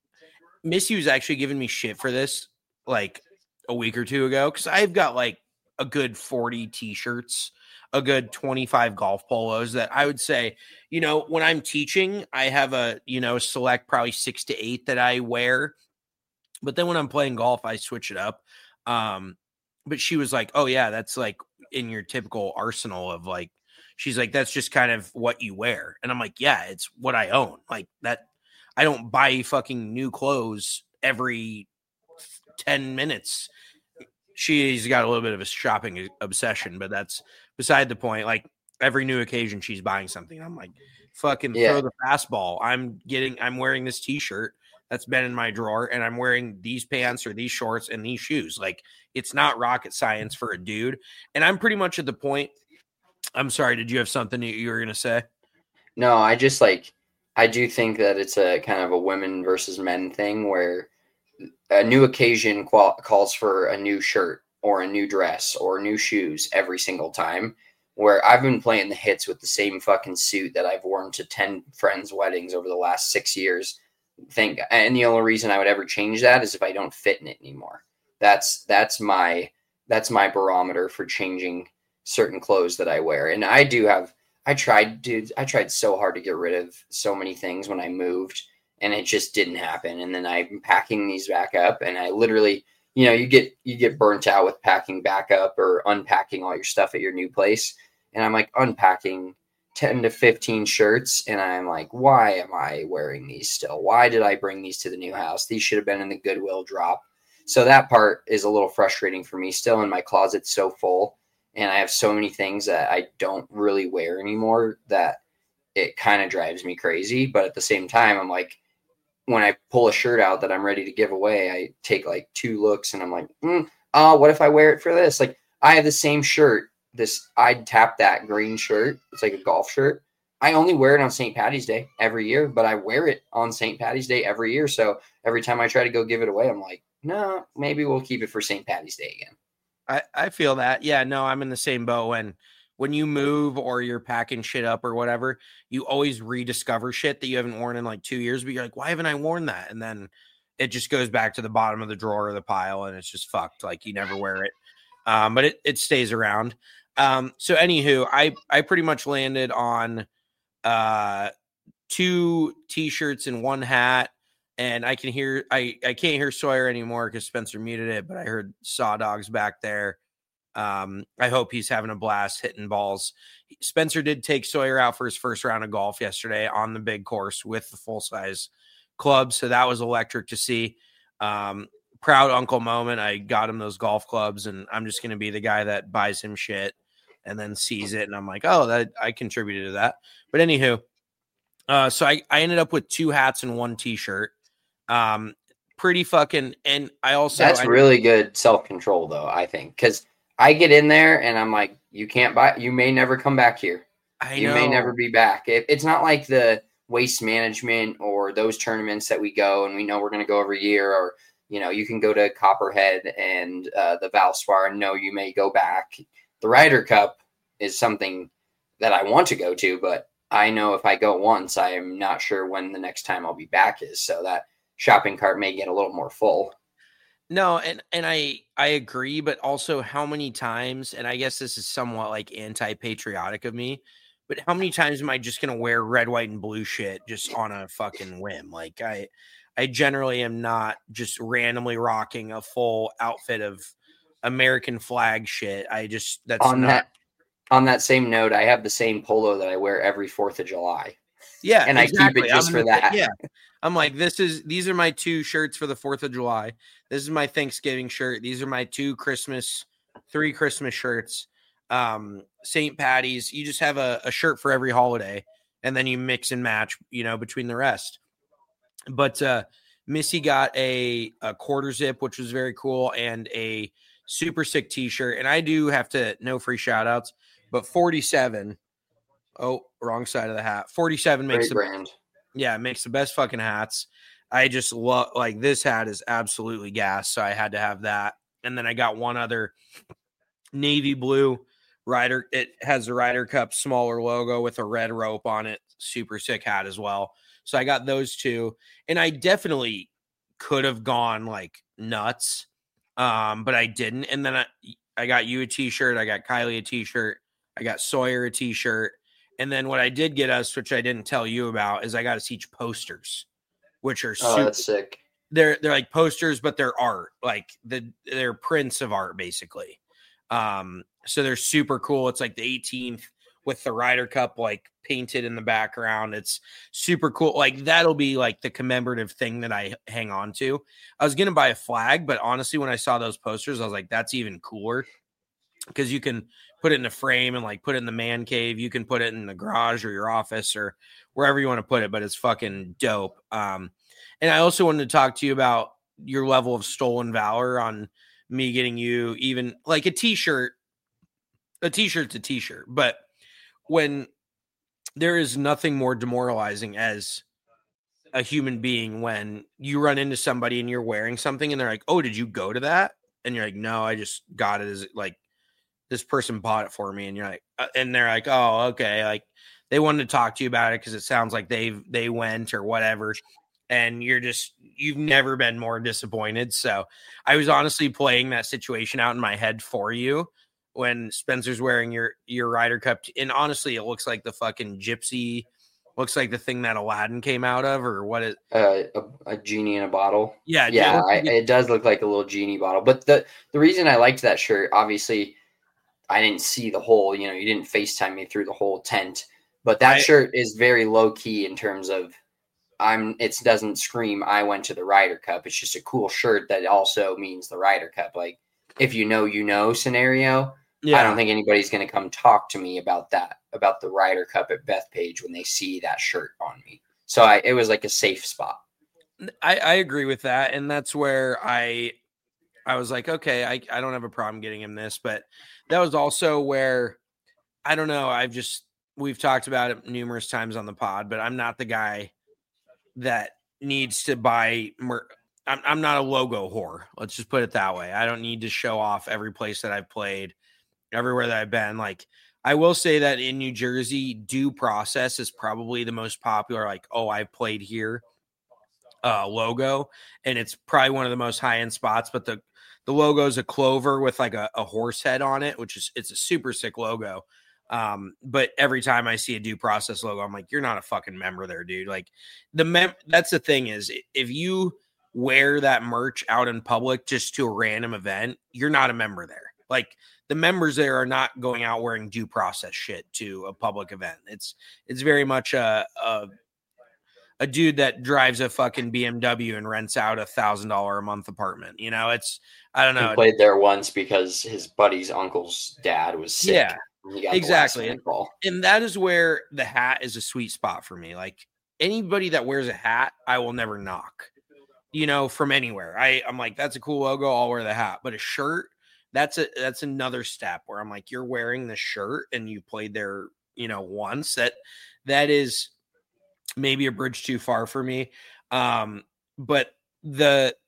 Missy was actually giving me shit for this like a week or two ago because I've got like a good forty t-shirts, a good twenty-five golf polos that I would say, you know, when I'm teaching, I have a, you know, select probably six to eight that I wear. But then when I'm playing golf, I switch it up. Um, but she was like, oh yeah, that's like in your typical arsenal of like, she's like, that's just kind of what you wear. And I'm like, yeah, it's what I own. Like that. I don't buy fucking new clothes every ten minutes. She's got a little bit of a shopping obsession, but that's beside the point. Like every new occasion she's buying something. I'm like, fucking Yeah. throw the fastball. I'm getting, I'm wearing this t-shirt that's been in my drawer and I'm wearing these pants or these shorts and these shoes. Like it's not rocket science for a dude. And I'm pretty much at the point. I'm sorry. Did you have something you were going to say? No, I just like, I do think that it's a kind of a women versus men thing where a new occasion qual- calls for a new shirt or a new dress or new shoes every single time, where I've been playing the hits with the same fucking suit that I've worn to ten friends' weddings over the last six years. Think, and the only reason I would ever change that is if I don't fit in it anymore. That's, that's my, that's my barometer for changing certain clothes that I wear. And I do have, I tried, dude, I tried so hard to get rid of so many things when I moved and it just didn't happen. And then I'm packing these back up and I literally, you know, you get, you get burnt out with packing back up or unpacking all your stuff at your new place. And I'm like unpacking ten to fifteen shirts. And I'm like, why am I wearing these still? Why did I bring these to the new house? These should have been in the Goodwill drop. So that part is a little frustrating for me still, and my closet's so full. And I have so many things that I don't really wear anymore that it kind of drives me crazy. But at the same time, I'm like, when I pull a shirt out that I'm ready to give away, I take like two looks and I'm like, mm, oh, what if I wear it for this? Like I have the same shirt, this I'd tap that green shirt. It's like a golf shirt. I only wear it on Saint Patty's Day every year, but I wear it on Saint Patty's Day every year. So every time I try to go give it away, I'm like, no, maybe we'll keep it for Saint Patty's Day again. I, I feel that. Yeah, no, I'm in the same boat. When when you move or you're packing shit up or whatever, you always rediscover shit that you haven't worn in like two years, but you're like, why haven't I worn that? And then it just goes back to the bottom of the drawer or the pile and it's just fucked. Like you never wear it. Um, but it, it stays around. Um, so anywho, I, I pretty much landed on uh, two t-shirts and one hat. And I can hear, I, I can't hear Sawyer anymore because Spencer muted it, but I heard Saw Dogs back there. Um, I hope he's having a blast hitting balls. Spencer did take Sawyer out for his first round of golf yesterday on the big course with the full size club. So that was electric to see. Um, proud uncle moment. I got him those golf clubs and I'm just going to be the guy that buys him shit and then sees it. And I'm like, oh, that I contributed to that. But anywho, uh, so I, I ended up with two hats and one t-shirt. Um, pretty fucking, and I also, that's I, really good self-control though, I think. Cause I get in there and I'm like, you can't buy, you may never come back here. I you know. may never be back. It, it's not like the Waste Management or those tournaments that we go and we know we're going to go every year, or, You know, you can go to Copperhead and uh, the Valspar and know you may go back. The Ryder Cup is something that I want to go to, but I know if I go once, I am not sure when the next time I'll be back is. So that shopping cart may get a little more full. No, and and I I agree, but also how many times, and I guess this is somewhat like anti-patriotic of me, but how many times am I just gonna wear red, white, and blue shit just on a fucking whim? Like I I generally am not just randomly rocking a full outfit of American flag shit. I just that's on not that on that same note, I have the same polo that I wear every fourth of July. Yeah, and exactly. I keep it just I'm for that. Yeah, I'm like, this is these are my two shirts for the fourth of July. This is my Thanksgiving shirt. These are my two Christmas, three Christmas shirts. Um, Saint Patty's. You just have a, a shirt for every holiday, and then you mix and match, you know, between the rest. But uh, Missy got a, a quarter zip, which was very cool, and a super sick T-shirt. And I do have to no free shout outs, but forty-seven. Oh, wrong side of the hat. forty-seven makes Great the brand. Yeah, it makes the best fucking hats. I just love like this hat is absolutely gas, so I had to have that. And then I got one other navy blue Ryder. It has the Ryder Cup smaller logo with a red rope on it. Super sick hat as well. So I got those two, and I definitely could have gone like nuts, um, but I didn't. And then I, I got you a T-shirt. I got Kylie a T-shirt. I got Sawyer a T-shirt. And then what I did get us, which I didn't tell you about, is I got us each posters, which are oh, super, that's sick. They're they're like posters, but they're art, like the they're prints of art basically. Um, so they're super cool. It's like the eighteenth with the Ryder Cup like painted in the background. It's super cool. Like that'll be like the commemorative thing that I hang on to. I was gonna buy a flag, but honestly, when I saw those posters, I was like, that's even cooler because you can put it in a frame and like put it in the man cave. You can put it in the garage or your office or wherever you want to put it, but it's fucking dope. Um, and I also wanted to talk to you about your level of stolen valor on me getting you even like a T-shirt. A T-shirt's a T-shirt, but when there is nothing more demoralizing as a human being when you run into somebody and you're wearing something and they're like, oh, did you go to that? And you're like, no, I just got it as like, this person bought it for me. And you're like, uh, and they're like, oh, okay. Like they wanted to talk to you about it because it sounds like they've, they went or whatever. And you're just, you've never been more disappointed. So I was honestly playing that situation out in my head for you when Spencer's wearing your, your Ryder Cup. T- and honestly, it looks like the fucking gypsy, looks like the thing that Aladdin came out of or what is uh, a, a genie in a bottle. Yeah. Yeah. It, I, it does look like a little genie bottle, but the, the reason I liked that shirt, obviously, I didn't see the whole, you know, you didn't FaceTime me through the whole tent, but that I, shirt is very low key in terms of I'm, it doesn't scream, I went to the Ryder Cup. It's just a cool shirt that also means the Ryder Cup. Like if you know, you know, scenario, yeah. I don't think anybody's going to come talk to me about that, about the Ryder Cup at Bethpage when they see that shirt on me. So I, it was like a safe spot. I, I agree with that. And that's where I, I was like, okay, I, I don't have a problem getting him this, but that was also where, I don't know, I've just, we've talked about it numerous times on the pod, but I'm not the guy that needs to buy, mer- I'm, I'm not a logo whore. Let's just put it that way. I don't need to show off every place that I've played, everywhere that I've been. Like, I will say that in New Jersey, Due Process is probably the most popular, like, oh, I've played here uh, logo, and it's probably one of the most high-end spots, but the The logo is a clover with like a, a horse head on it, which is, it's a super sick logo. Um, but every time I see a Due Process logo, I'm like, you're not a fucking member there, dude. Like the mem- that's the thing is if you wear that merch out in public just to a random event, you're not a member there. Like the members there are not going out wearing Due Process shit to a public event. It's, it's very much a, a, a dude that drives a fucking B M W and rents out a thousand dollar a month apartment. You know, it's, I don't know. He played there once because his buddy's uncle's dad was sick. Yeah, exactly. And, and that is where the hat is a sweet spot for me. Like anybody that wears a hat, I will never knock, you know, from anywhere. I, I'm like, that's a cool logo. I'll wear the hat, but a shirt, that's a, that's another step where I'm like, you're wearing the shirt and you played there, you know, once that, that is maybe a bridge too far for me. Um, but the,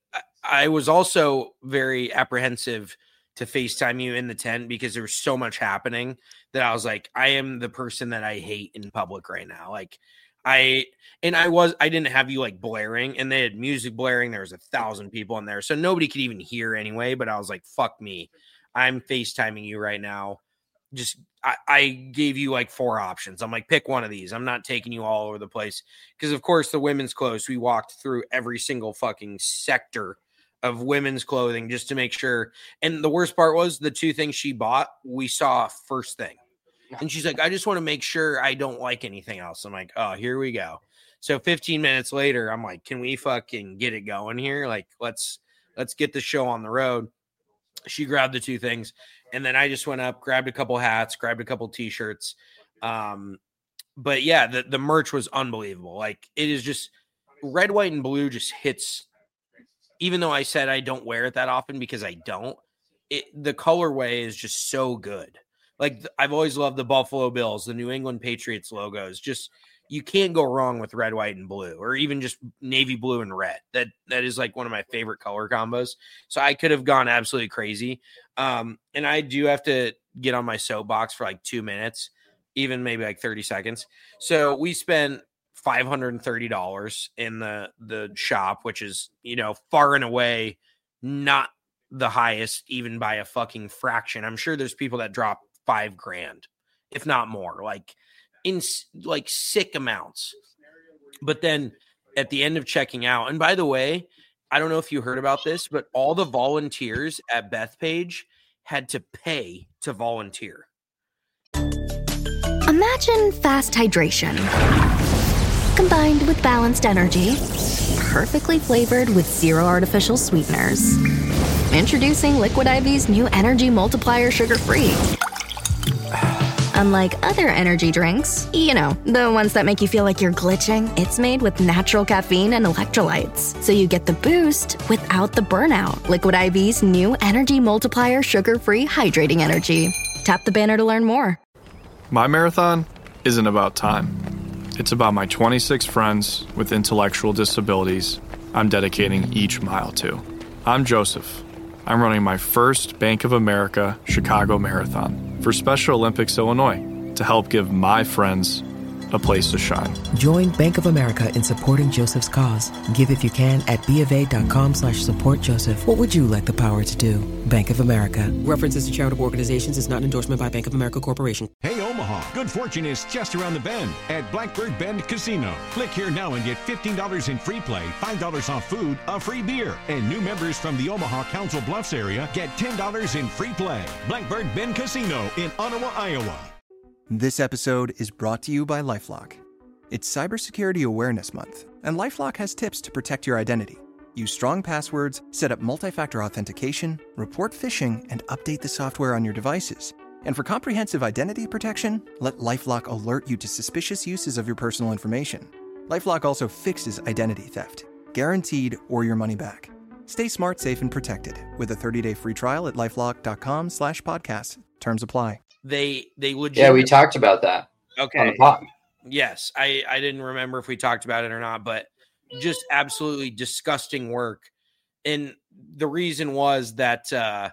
I was also very apprehensive to FaceTime you in the tent because there was so much happening that I was like, I am the person that I hate in public right now. Like I, and I was, I didn't have you like blaring, and they had music blaring. There was a thousand people in there, so nobody could even hear anyway. But I was like, fuck me. I'm FaceTiming you right now. Just, I, I gave you like four options. I'm like, pick one of these. I'm not taking you all over the place. Because of course the women's clothes, we walked through every single fucking sector of women's clothing just to make sure. And the worst part was the two things she bought, we saw first thing. And she's like, I just want to make sure I don't like anything else. I'm like, oh, here we go. So fifteen minutes later, I'm like, can we fucking get it going here? Like, let's, let's get the show on the road. She grabbed the two things. And then I just went up, grabbed a couple hats, grabbed a couple t-shirts. Um, but yeah, the, the merch was unbelievable. Like, it is just red, white, and blue just hits. Even though I said I don't wear it that often because I don't, it, the colorway is just so good. Like, I've always loved the Buffalo Bills, the New England Patriots logos. Just, you can't go wrong with red, white, and blue, or even just navy blue and red. That that is like one of my favorite color combos. So I could have gone absolutely crazy. Um, and I do have to get on my soapbox for like two minutes, even maybe like thirty seconds. So we spent five hundred thirty dollars in the, the shop, which is, you know, far and away not the highest, even by a fucking fraction. I'm sure there's people that drop five grand, if not more, like in like sick amounts. But then at the end of checking out, and by the way, I don't know if you heard about this, but all the volunteers at Bethpage had to pay to volunteer. Imagine fast hydration combined with balanced energy, perfectly flavored with zero artificial sweeteners. Introducing Liquid I V's new Energy Multiplier Sugar-Free. Unlike other energy drinks, you know, the ones that make you feel like you're glitching, it's made with natural caffeine and electrolytes, so you get the boost without the burnout. Liquid I V's new Energy Multiplier Sugar-Free Hydrating Energy. Tap the banner to learn more. My marathon isn't about time. It's about my twenty-six friends with intellectual disabilities I'm dedicating each mile to. I'm Joseph. I'm running my first Bank of America Chicago Marathon for Special Olympics Illinois to help give my friends a place to shine. Join Bank of America in supporting Joseph's cause. Give if you can at BofA.com slash support Joseph. What would you like the power to do? Bank of America. References to charitable organizations is not an endorsement by Bank of America Corporation. Hey, Omaha, good fortune is just around the bend at Blackbird Bend Casino. Click here now and get fifteen dollars in free play, five dollars off food, a free beer. And new members from the Omaha Council Bluffs area get ten dollars in free play. Blackbird Bend Casino in Ottawa, Iowa. This episode is brought to you by LifeLock. It's Cybersecurity Awareness Month, and LifeLock has tips to protect your identity. Use strong passwords, set up multi-factor authentication, report phishing, and update the software on your devices. And for comprehensive identity protection, let LifeLock alert you to suspicious uses of your personal information. LifeLock also fixes identity theft, guaranteed or your money back. Stay smart, safe, and protected with a thirty-day free trial at LifeLock.com slash podcast. Terms apply. They they legit. Yeah, we talked about that. Okay. On the pod. Yes, I I didn't remember if we talked about it or not, but just absolutely disgusting work. And the reason was that uh,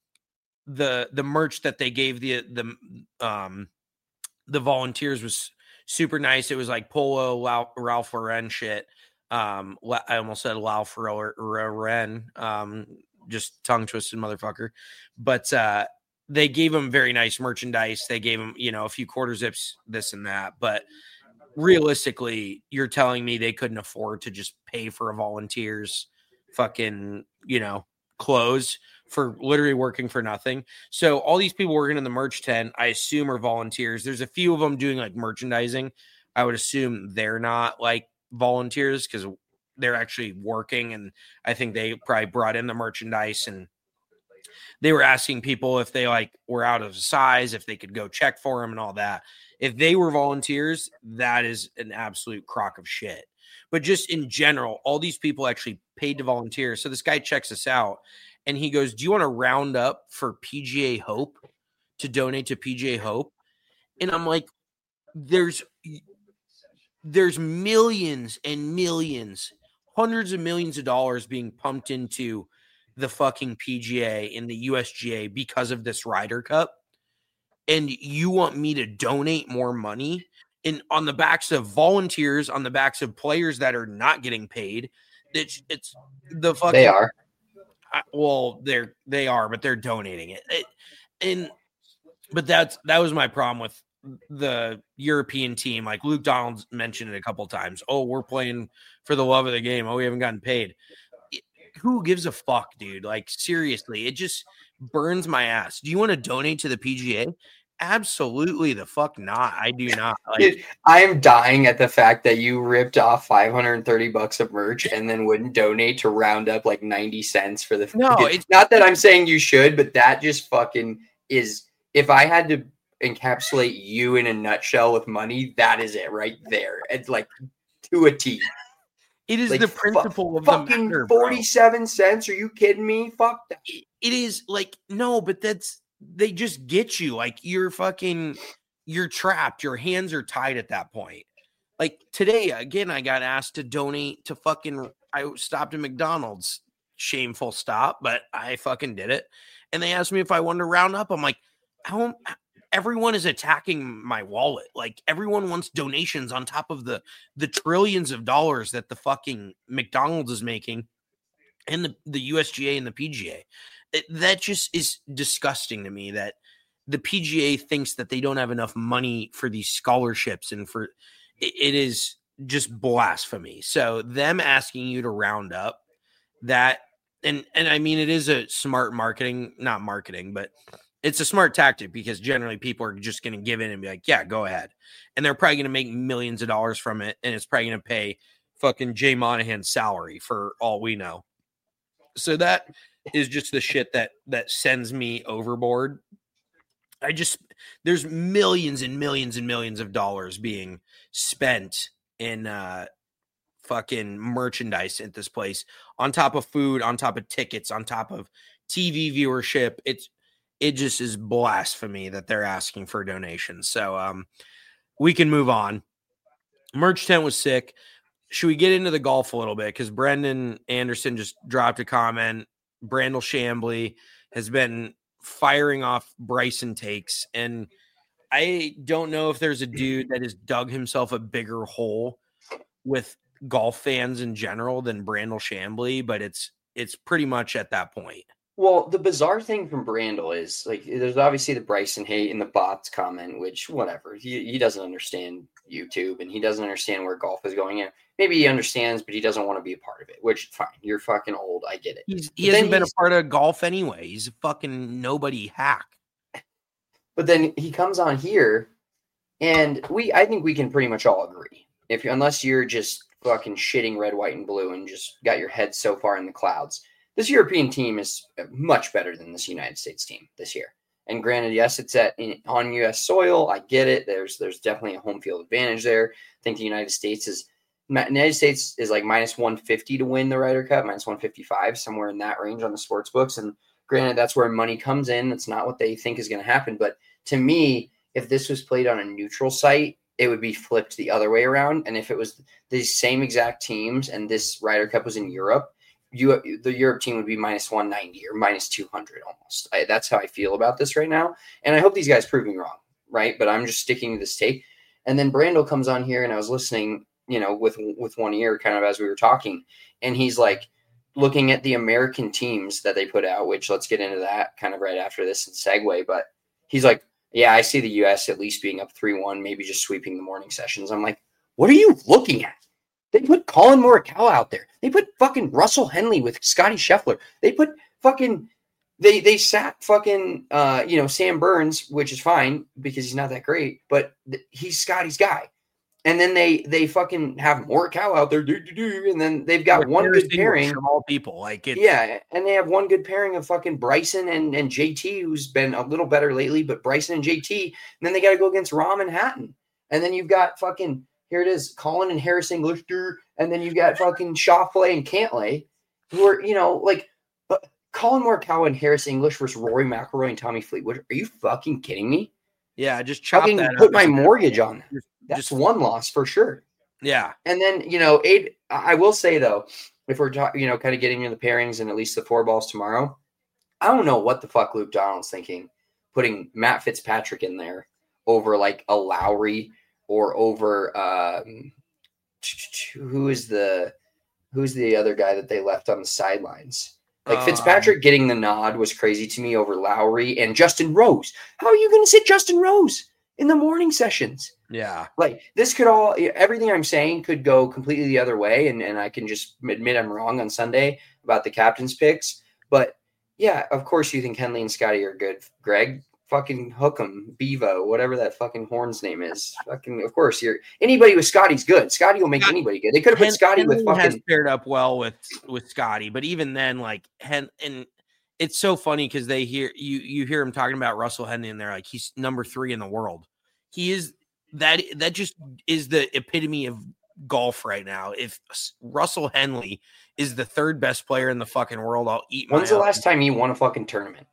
the the merch that they gave the the um the volunteers was super nice. It was like polo Ralph Lauren shit. Um, I almost said Ralph Lauren. Um, just tongue twisted motherfucker. But uh, they gave them very nice merchandise. They gave them, you know, a few quarter zips, this and that. But realistically, you're telling me they couldn't afford to just pay for a volunteer's fucking, you know, clothes for literally working for nothing. So all these people working in the merch tent, I assume, are volunteers. There's a few of them doing like merchandising. I would assume they're not like volunteers because they're actually working. And I think they probably brought in the merchandise, and they were asking people if they like were out of size, if they could go check for them and all that. If they were volunteers, that is an absolute crock of shit. But just in general, all these people actually paid to volunteer. So this guy checks us out and he goes, do you want to round up for P G A Hope, to donate to P G A Hope? And I'm like, there's, there's millions and millions, hundreds of millions of dollars being pumped into the fucking P G A and the U S G A because of this Ryder Cup. And you want me to donate more money in on the backs of volunteers, on the backs of players that are not getting paid. It's, it's the fucking, they are. I, well, they're, they are, but they're donating it. it. And, but that's, that was my problem with the European team. Like Luke Donald mentioned it a couple times. Oh, we're playing for the love of the game. Oh, we haven't gotten paid. It, who gives a fuck, dude? Like, seriously, it just burns my ass. Do you want to donate to the P G A? Absolutely the fuck not. I do not. Like, dude, I am dying at the fact that you ripped off five hundred thirty bucks of merch and then wouldn't donate to round up like ninety cents for the. No, it's not that I'm saying you should, but that just fucking is. If I had to encapsulate you in a nutshell with money, that is it right there. It's like to a T. It is like, the principle fu- of fucking the matter, forty-seven cents. Are you kidding me? Fuck that. It is like, no, but that's, they just get you. Like, you're fucking, you're trapped. Your hands are tied at that point. Like today, again, I got asked to donate to fucking, I stopped at McDonald's. Shameful stop, but I fucking did it. And they asked me if I wanted to round up. I'm like, how, everyone is attacking my wallet. Like, everyone wants donations on top of the the trillions of dollars that the fucking McDonald's is making, and the, the U S G A and the P G A. It, that just is disgusting to me that the P G A thinks that they don't have enough money for these scholarships, and for it, it is just blasphemy. So them asking you to round up that, and and I mean, it is a smart marketing, not marketing, but it's a smart tactic, because generally people are just going to give in and be like, yeah, go ahead. And they're probably going to make millions of dollars from it. And it's probably going to pay fucking Jay Monahan's salary for all we know. So that is just the shit that, that sends me overboard. I just, there's millions and millions and millions of dollars being spent in uh, fucking merchandise at this place, on top of food, on top of tickets, on top of T V viewership. It's, It just is blasphemy that they're asking for donations. So um, we can move on. Merch tent was sick. Should we get into the golf a little bit? Because Brendan Anderson just dropped a comment. Brandel Chambly has been firing off Bryson takes. And I don't know if there's a dude that has dug himself a bigger hole with golf fans in general than Brandel Chambly, but it's it's pretty much at that point. Well, the bizarre thing from Brandel is, like, there's obviously the Bryson hate in the bots comment, which, whatever, he, he doesn't understand YouTube, and he doesn't understand where golf is going in. Maybe he understands, but he doesn't want to be a part of it, which, fine. You're fucking old. I get it. He's, he but hasn't been a part of golf anyway. He's a fucking nobody hack. But then he comes on here, and we, I think we can pretty much all agree. If you, unless you're just fucking shitting red, white, and blue and just got your head so far in the clouds, this European team is much better than this United States team this year. And granted, yes, it's at in, on U S soil. I get it. There's there's definitely a home field advantage there. I think the United States is United States is like minus one fifty to win the Ryder Cup, minus one fifty-five, somewhere in that range on the sports books. And granted, that's where money comes in. That's not what they think is going to happen. But to me, if this was played on a neutral site, it would be flipped the other way around. And if it was the same exact teams and this Ryder Cup was in Europe, You, the Europe team would be minus one ninety or minus two hundred almost. I, that's how I feel about this right now. And I hope these guys prove me wrong, right? But I'm just sticking to this take. And then Brandel comes on here, and I was listening, you know, with with one ear kind of as we were talking. And he's like looking at the American teams that they put out, which let's get into that kind of right after this and segue. But he's like, yeah, I see the U S at least being up three one, maybe just sweeping the morning sessions. I'm like, what are you looking at? They put Colin Morikawa out there. They put fucking Russell Henley with Scotty Scheffler. They put fucking they they sat fucking uh you know Sam Burns, which is fine because he's not that great, but th- he's Scotty's guy. And then they they fucking have Morikawa out there, do, do, do, and then they've got one good pairing from all people. Like it, yeah, and they have one good pairing of fucking Bryson and and J T, who's been a little better lately, but Bryson and J T, and then they got to go against Rahm and Hatton, and then you've got fucking. Here it is, Colin and Harris English, and then you got fucking Schauffele and Cantlay, who are, you know, like, but Colin Morikawa and Harris English versus Rory McIlroy and Tommy Fleetwood. Are you fucking kidding me? Yeah, just chop fucking that put up. my mortgage on that. Just, That's just one loss for sure. Yeah. And then, you know, eight, I will say, though, if we're talking, you know, kind of getting into the pairings and at least the four balls tomorrow, I don't know what the fuck Luke Donald's thinking, putting Matt Fitzpatrick in there over like a Lowry or over um, who is the who's the other guy that they left on the sidelines? Like Um, Fitzpatrick getting the nod was crazy to me over Lowry and Justin Rose. How are you going to sit Justin Rose in the morning sessions? Yeah. Like this could all, everything I'm saying could go completely the other way. And, and I can just admit I'm wrong on Sunday about the captain's picks. But yeah, of course you think Henley and Scotty are good. Greg, fucking hook 'em, Bevo, whatever that fucking horn's name is. Fucking, of course you're anybody with Scotty's good. Scotty will make anybody good. They could have put Hen- Scotty Henley with fucking. has paired up well with with Scotty, but even then, like Hen and it's so funny because they hear you you hear him talking about Russell Henley, and they're like, he's number three in the world. He is that that just is the epitome of golf right now. If Russell Henley is the third best player in the fucking world, I'll eat. When's my the own. last time you won a fucking tournament?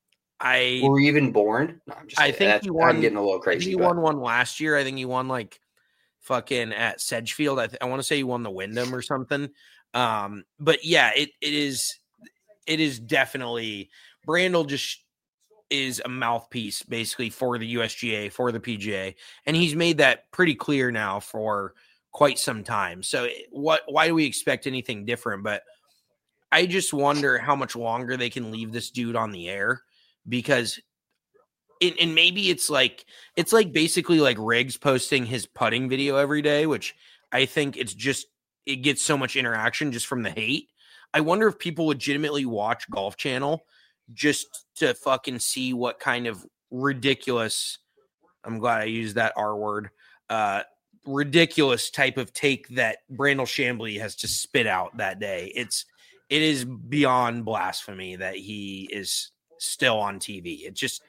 I were you even born? No, I'm just. I kidding. think That's, he won. I'm getting a little I crazy. think he but- won one last year. I think he won like fucking at Sedgefield. I, th- I want to say he won the Wyndham or something. Um, but yeah, it it is it is definitely Brandel just is a mouthpiece basically for the U S G A, for the P G A, and he's made that pretty clear now for quite some time. So what? Why do we expect anything different? But I just wonder how much longer they can leave this dude on the air. Because it, and maybe it's like it's like basically like Riggs posting his putting video every day, which I think it's just it gets so much interaction just from the hate. I wonder if people legitimately watch Golf Channel just to fucking see what kind of ridiculous, I'm glad I used that R word, uh, ridiculous type of take that Brandel Chambly has to spit out that day. It's it is beyond blasphemy that he is still on T V. It just,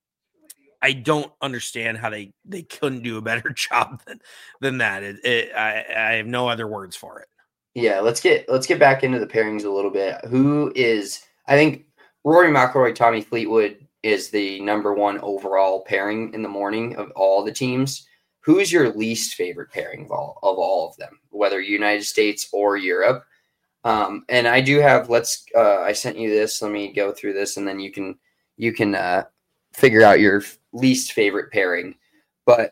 I don't understand how they, they couldn't do a better job than, than that. It, it, I, I have no other words for it. Yeah, let's get let's get back into the pairings a little bit. Who is? I think Rory McIlroy, Tommy Fleetwood is the number one overall pairing in the morning of all the teams. Who is your least favorite pairing of all of all of them, whether United States or Europe? Um, and I do have, let's, uh, I sent you this. Let me go through this and then you can, you can, uh, figure out your least favorite pairing. But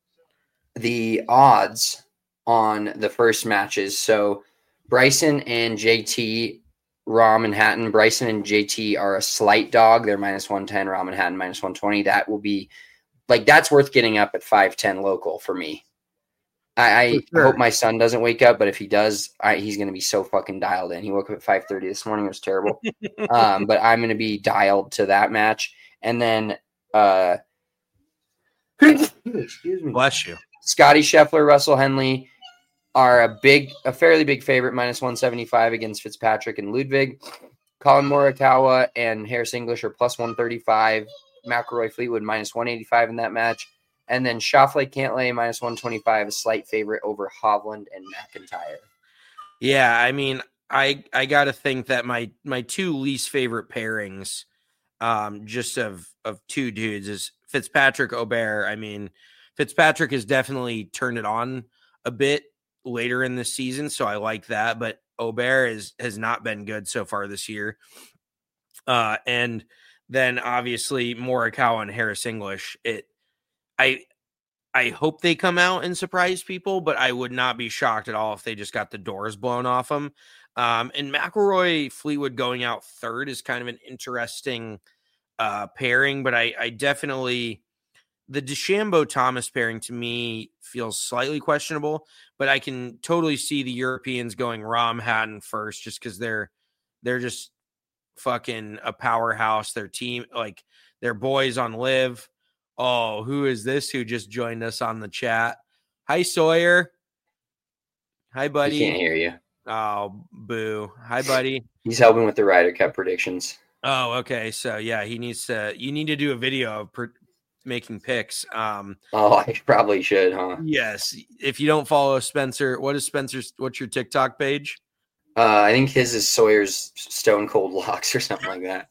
the odds on the first matches. So Bryson and J T, Rahm and Hatton, Bryson and J T are a slight dog. They're minus one ten, Rahm and Hatton minus one twenty. That will be like, that's worth getting up at five ten local for me. I, I sure. hope my son doesn't wake up, but if he does, I, he's going to be so fucking dialed in. He woke up at five thirty this morning. It was terrible. um, but I'm going to be dialed to that match. And then, uh, excuse me. Bless you. Scotty Scheffler, Russell Henley are a big, a fairly big favorite, minus one seventy-five against Fitzpatrick and Ludwig. Colin Morikawa and Harris English are plus one thirty-five. McIlroy Fleetwood minus one eighty-five in that match. And then Schauffele Cantlay minus one twenty-five, a slight favorite over Hovland and McIntyre. Yeah, I mean, I I got to think that my my two least favorite pairings, um, just of of two dudes, is Fitzpatrick Aubert. I mean, Fitzpatrick has definitely turned it on a bit later in the season, so I like that. But Aubert is has not been good so far this year. Uh, and then obviously Morikawa and Harris English. It, I. I hope they come out and surprise people, but I would not be shocked at all if they just got the doors blown off them. Um, and McIlroy Fleetwood going out third is kind of an interesting uh, pairing, but I, I definitely the DeChambeau Thomas pairing to me feels slightly questionable, but I can totally see the Europeans going Rahm Hatton first just because they're they're just fucking a powerhouse. Their team, like their boys on Live. Oh, who is this who just joined us on the chat? Hi, Sawyer. Hi, buddy. He can't hear you. Oh, boo. Hi, buddy. He's helping with the Ryder Cup predictions. Oh, okay. So, yeah, he needs to, you need to do a video of per, making picks. Um, oh, I probably should, huh? Yes. If you don't follow Spencer, what is Spencer's, what's your TikTok page? Uh, I think his is Sawyer's Stone Cold Locks or something like that.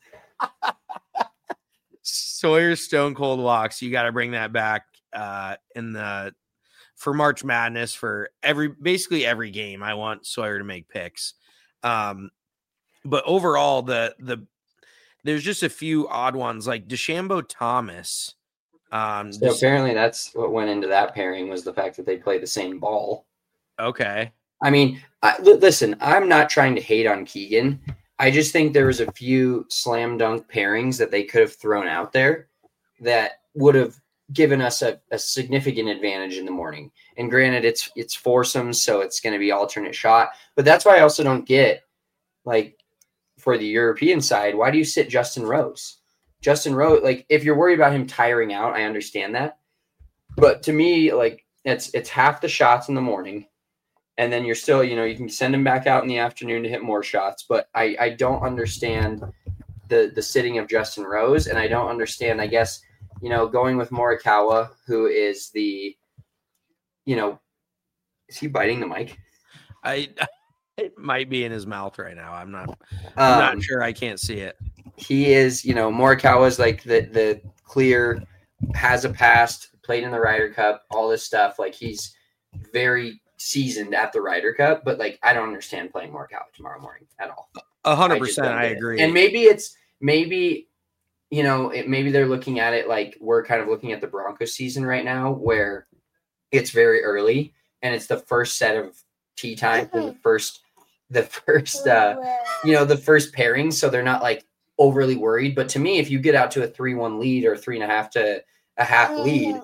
Sawyer's Stone Cold Locks. You got to bring that back uh, in the for March Madness, for every basically every game, I want Sawyer to make picks. Um, but overall, the the there's just a few odd ones like DeChambeau Thomas. Um, so apparently that's what went into that pairing was the fact that they play the same ball. Okay. I mean, I, listen, I'm not trying to hate on Keegan. I just think there was a few slam dunk pairings that they could have thrown out there that would have given us a, a significant advantage in the morning. And granted, it's it's foursomes, so it's going to be alternate shot. But that's why I also don't get, like, for the European side, why do you sit Justin Rose? Justin Rose, like, if you're worried about him tiring out, I understand that. But to me, like, it's it's half the shots in the morning. And then you're still, you know, you can send him back out in the afternoon to hit more shots. But I, I don't understand the the sitting of Justin Rose. And I don't understand, I guess, you know, going with Morikawa, who is the, you know, is he biting the mic? I it might be in his mouth right now. I'm not I'm um, not sure. I can't see it. He is, you know, Morikawa is like the the clear, has a past, played in the Ryder Cup, all this stuff. Like, he's very seasoned at the Ryder Cup, but like I don't understand playing Morikawa tomorrow morning at all. A hundred percent, I agree. And maybe it's maybe you know it, maybe they're looking at it like we're kind of looking at the Broncos season right now, where it's very early and it's the first set of tee time, the first the first uh, you know the first pairing, so they're not like overly worried. But to me, if you get out to a three one lead or three and a half to a half lead,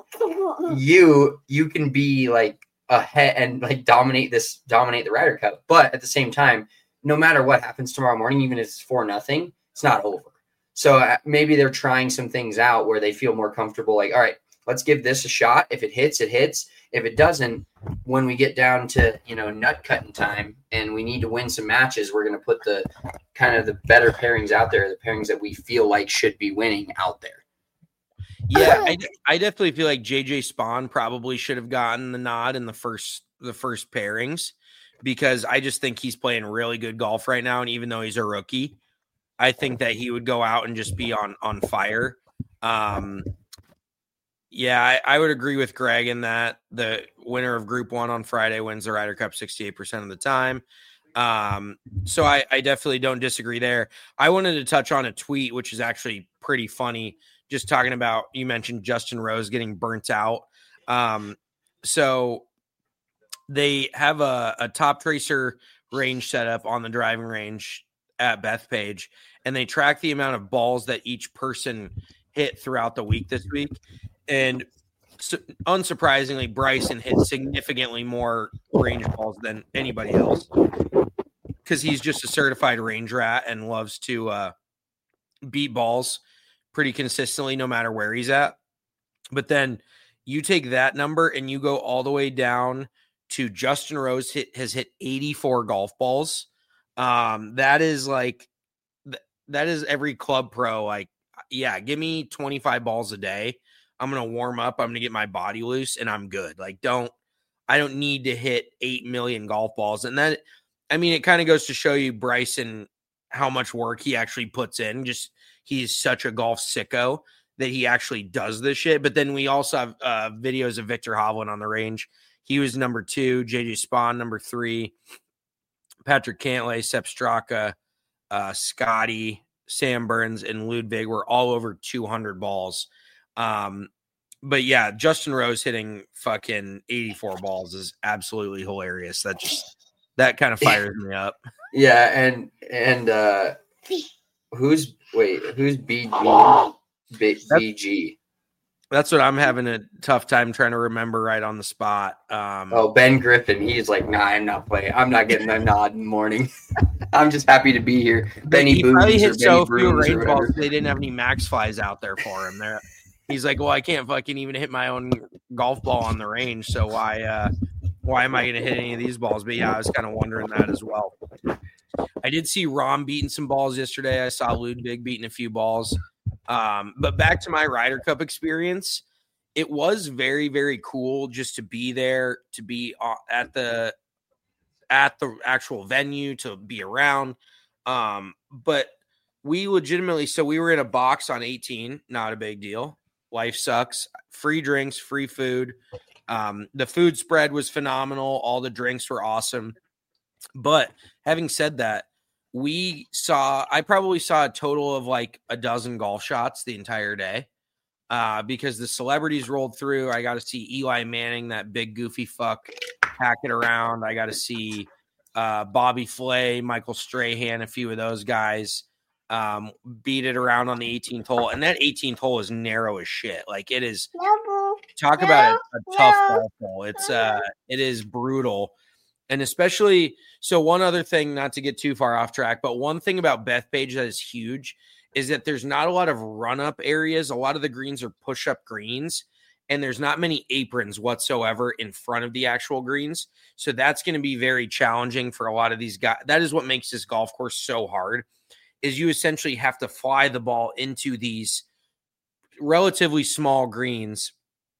you you can be like ahead and like dominate this, dominate the Ryder Cup. But at the same time, no matter what happens tomorrow morning, even if it's four nothing, it's not over. So uh, maybe they're trying some things out where they feel more comfortable. Like, all right, let's give this a shot. If it hits, it hits. If it doesn't, when we get down to, you know, nut cutting time and we need to win some matches, we're going to put the kind of the better pairings out there, the pairings that we feel like should be winning out there. Yeah, I, I definitely feel like J J Spawn probably should have gotten the nod in the first the first pairings, because I just think he's playing really good golf right now. And even though he's a rookie, I think that he would go out and just be on on fire. Um, yeah, I, I would agree with Greg in that the winner of Group One on Friday wins the Ryder Cup sixty-eight percent of the time. Um, so I, I definitely don't disagree there. I wanted to touch on a tweet, which is actually pretty funny. Just talking about, you mentioned Justin Rose getting burnt out. Um, so they have a, a top tracer range set up on the driving range at Bethpage, and they track the amount of balls that each person hit throughout the week this week. And so, unsurprisingly, Bryson hit significantly more range balls than anybody else, because he's just a certified range rat and loves to uh, beat balls pretty consistently no matter where he's at. But then you take that number and you go all the way down to Justin Rose hit, has hit eighty-four golf balls. Um, that is like, th- that is every club pro. Like, yeah, give me twenty-five balls a day. I'm going to warm up. I'm going to get my body loose and I'm good. Like, don't, I don't need to hit eight million golf balls. And that, I mean, it kind of goes to show you Bryson, how much work he actually puts in. Just, he's such a golf sicko that he actually does this shit. But then we also have uh, videos of Victor Hovland on the range. He was number two, J J Spawn, number three, Patrick Cantlay, Sepp Straka, uh, Scotty, Sam Burns, and Ludwig were all over two hundred balls. Um, but yeah, Justin Rose hitting fucking eighty-four balls is absolutely hilarious. That just, that kind of fires me up. Yeah. And, and, uh, who's, wait, who's B G? B G. That's what I'm having a tough time trying to remember right on the spot. Um, oh, Ben Griffin. He's like, nah, I'm not playing. I'm not getting a nod in the morning. I'm just happy to be here. Benny he Booms probably or hit so Benny few Brooms or range balls whatever. they didn't have any max flies out there for him. There, he's like, well, I can't fucking even hit my own golf ball on the range, so why, uh, why am I going to hit any of these balls? But yeah, I was kind of wondering that as well. I did see Rom beating some balls yesterday. I saw Ludwig beating a few balls. Um, but back to my Ryder Cup experience, it was very, very cool just to be there, to be at the at the actual venue, to be around. Um, but we legitimately, so we were in a box on eighteen, not a big deal. Life sucks. Free drinks, free food. Um, the food spread was phenomenal. All the drinks were awesome. But having said that, we saw, I probably saw a total of like a dozen golf shots the entire day uh, because the celebrities rolled through. I got to see Eli Manning, that big goofy fuck, pack it around. I got to see uh, Bobby Flay, Michael Strahan, a few of those guys um, beat it around on the eighteenth hole. And that eighteenth hole is narrow as shit. Like it is, talk about a, a tough golf hole. It's, uh, it is brutal. And especially, so one other thing, not to get too far off track, but one thing about Bethpage that is huge is that there's not a lot of run-up areas. A lot of the greens are push-up greens, and there's not many aprons whatsoever in front of the actual greens. So that's going to be very challenging for a lot of these guys. That is what makes this golf course so hard, is you essentially have to fly the ball into these relatively small greens.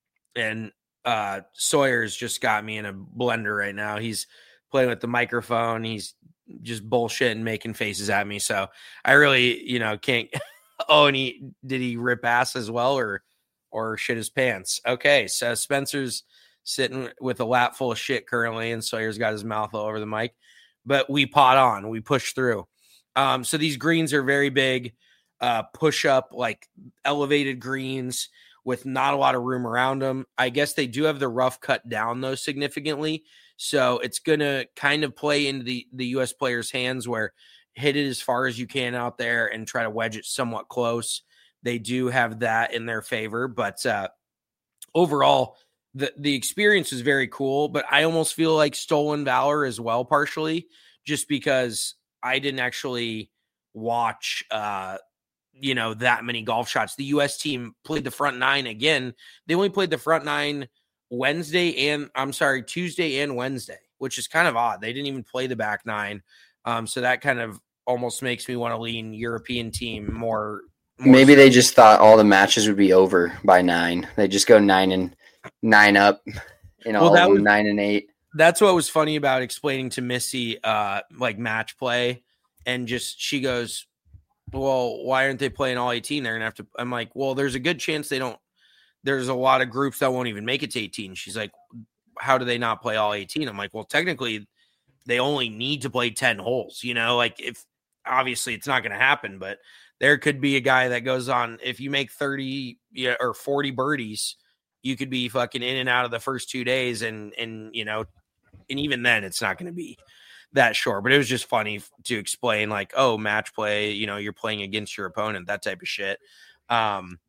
And Uh, Sawyer's just got me in a blender right now. He's playing with the microphone. He's just bullshitting, making faces at me. So I really, you know, can't. Oh, and he did he rip ass as well, or or shit his pants? Okay, so Spencer's sitting with a lap full of shit currently, and Sawyer's got his mouth all over the mic. But we pot on, we push through. Um, so these greens are very big, uh, push up, like elevated greens, with not a lot of room around them. I guess they do have the rough cut down, though, significantly. So it's going to kind of play into the, the U S players' hands where hit it as far as you can out there and try to wedge it somewhat close. They do have that in their favor. But uh, overall, the, the experience is very cool. But I almost feel like stolen valor as well, partially, just because I didn't actually watch uh, – you know, that many golf shots. The U S team played the front nine again. They only played the front nine Wednesday and I'm sorry, Tuesday and Wednesday, which is kind of odd. They didn't even play the back nine. Um, so that kind of almost makes me want to lean European team more. more Maybe so. they just thought all the matches would be over by nine. They just go nine and nine up, you know, well, that was, nine and eight. That's what was funny about explaining to Missy, uh, like match play. And just, she goes, well, why aren't they playing all eighteen? They're going to have to, I'm like, well, there's a good chance they don't, there's a lot of groups that won't even make it to eighteen. She's like, how do they not play all eighteen? I'm like, well, technically they only need to play ten holes, you know, like if obviously it's not going to happen, but there could be a guy that goes on, if you make thirty yeah, or forty birdies, you could be fucking in and out of the first two days. And, and, you know, and even then it's not going to be that short, but it was just funny to explain like, oh, match play, you know, you're playing against your opponent, that type of shit. Um,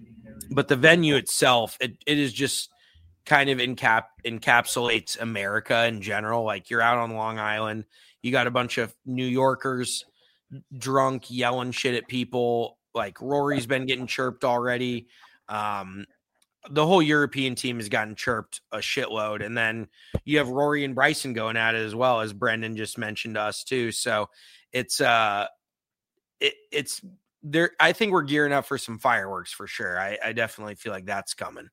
but the venue itself, it, it is just kind of encap encapsulates America in general. Like you're out on Long Island, you got a bunch of New Yorkers drunk, yelling shit at people. Like Rory's been getting chirped already. Um, the whole European team has gotten chirped a shitload. And then you have Rory and Bryson going at it as well, as Brendan just mentioned to us too. So it's, uh, it, it's there. I think we're gearing up for some fireworks for sure. I, I definitely feel like that's coming.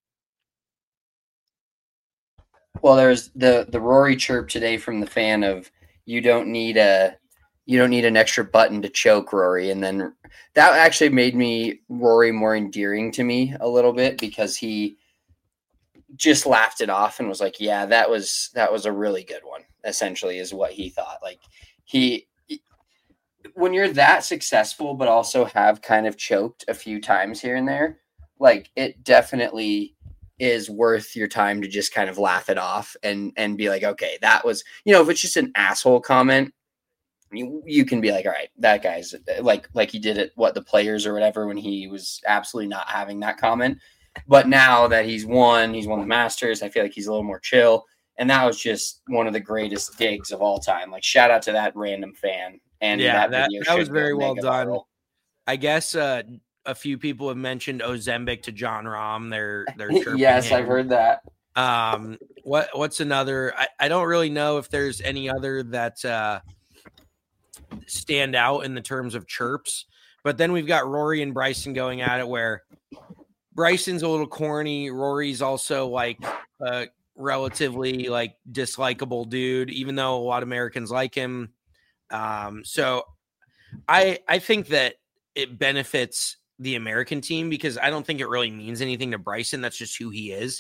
Well, there's the, the Rory chirp today from the fan of, you don't need a, you don't need an extra button to choke Rory. And then that actually made me Rory more endearing to me a little bit, because he just laughed it off and was like, yeah, that was, that was a really good one, essentially is what he thought. Like he, when you're that successful, but also have kind of choked a few times here and there, like it definitely is worth your time to just kind of laugh it off and, and be like, okay, that was, you know, if it's just an asshole comment, You, you can be like, all right, that guy's like, like he did it, what the players or whatever, when he was absolutely not having that comment. But now that he's won, he's won the Masters, I feel like he's a little more chill. And that was just one of the greatest digs of all time. Like shout out to that random fan. And yeah, that, that, video that was very well mega done. viral. I guess uh, a few people have mentioned Ozembic to John Rahm. They're, they're yes, him. I've heard that. Um, what, what's another, I, I don't really know if there's any other that, uh, stand out in the terms of chirps, but then we've got Rory and Bryson going at it, where Bryson's a little corny. Rory's also like a relatively like dislikable dude, even though a lot of Americans like him. Um, so I, I think that it benefits the American team, because I don't think it really means anything to Bryson. That's just who he is.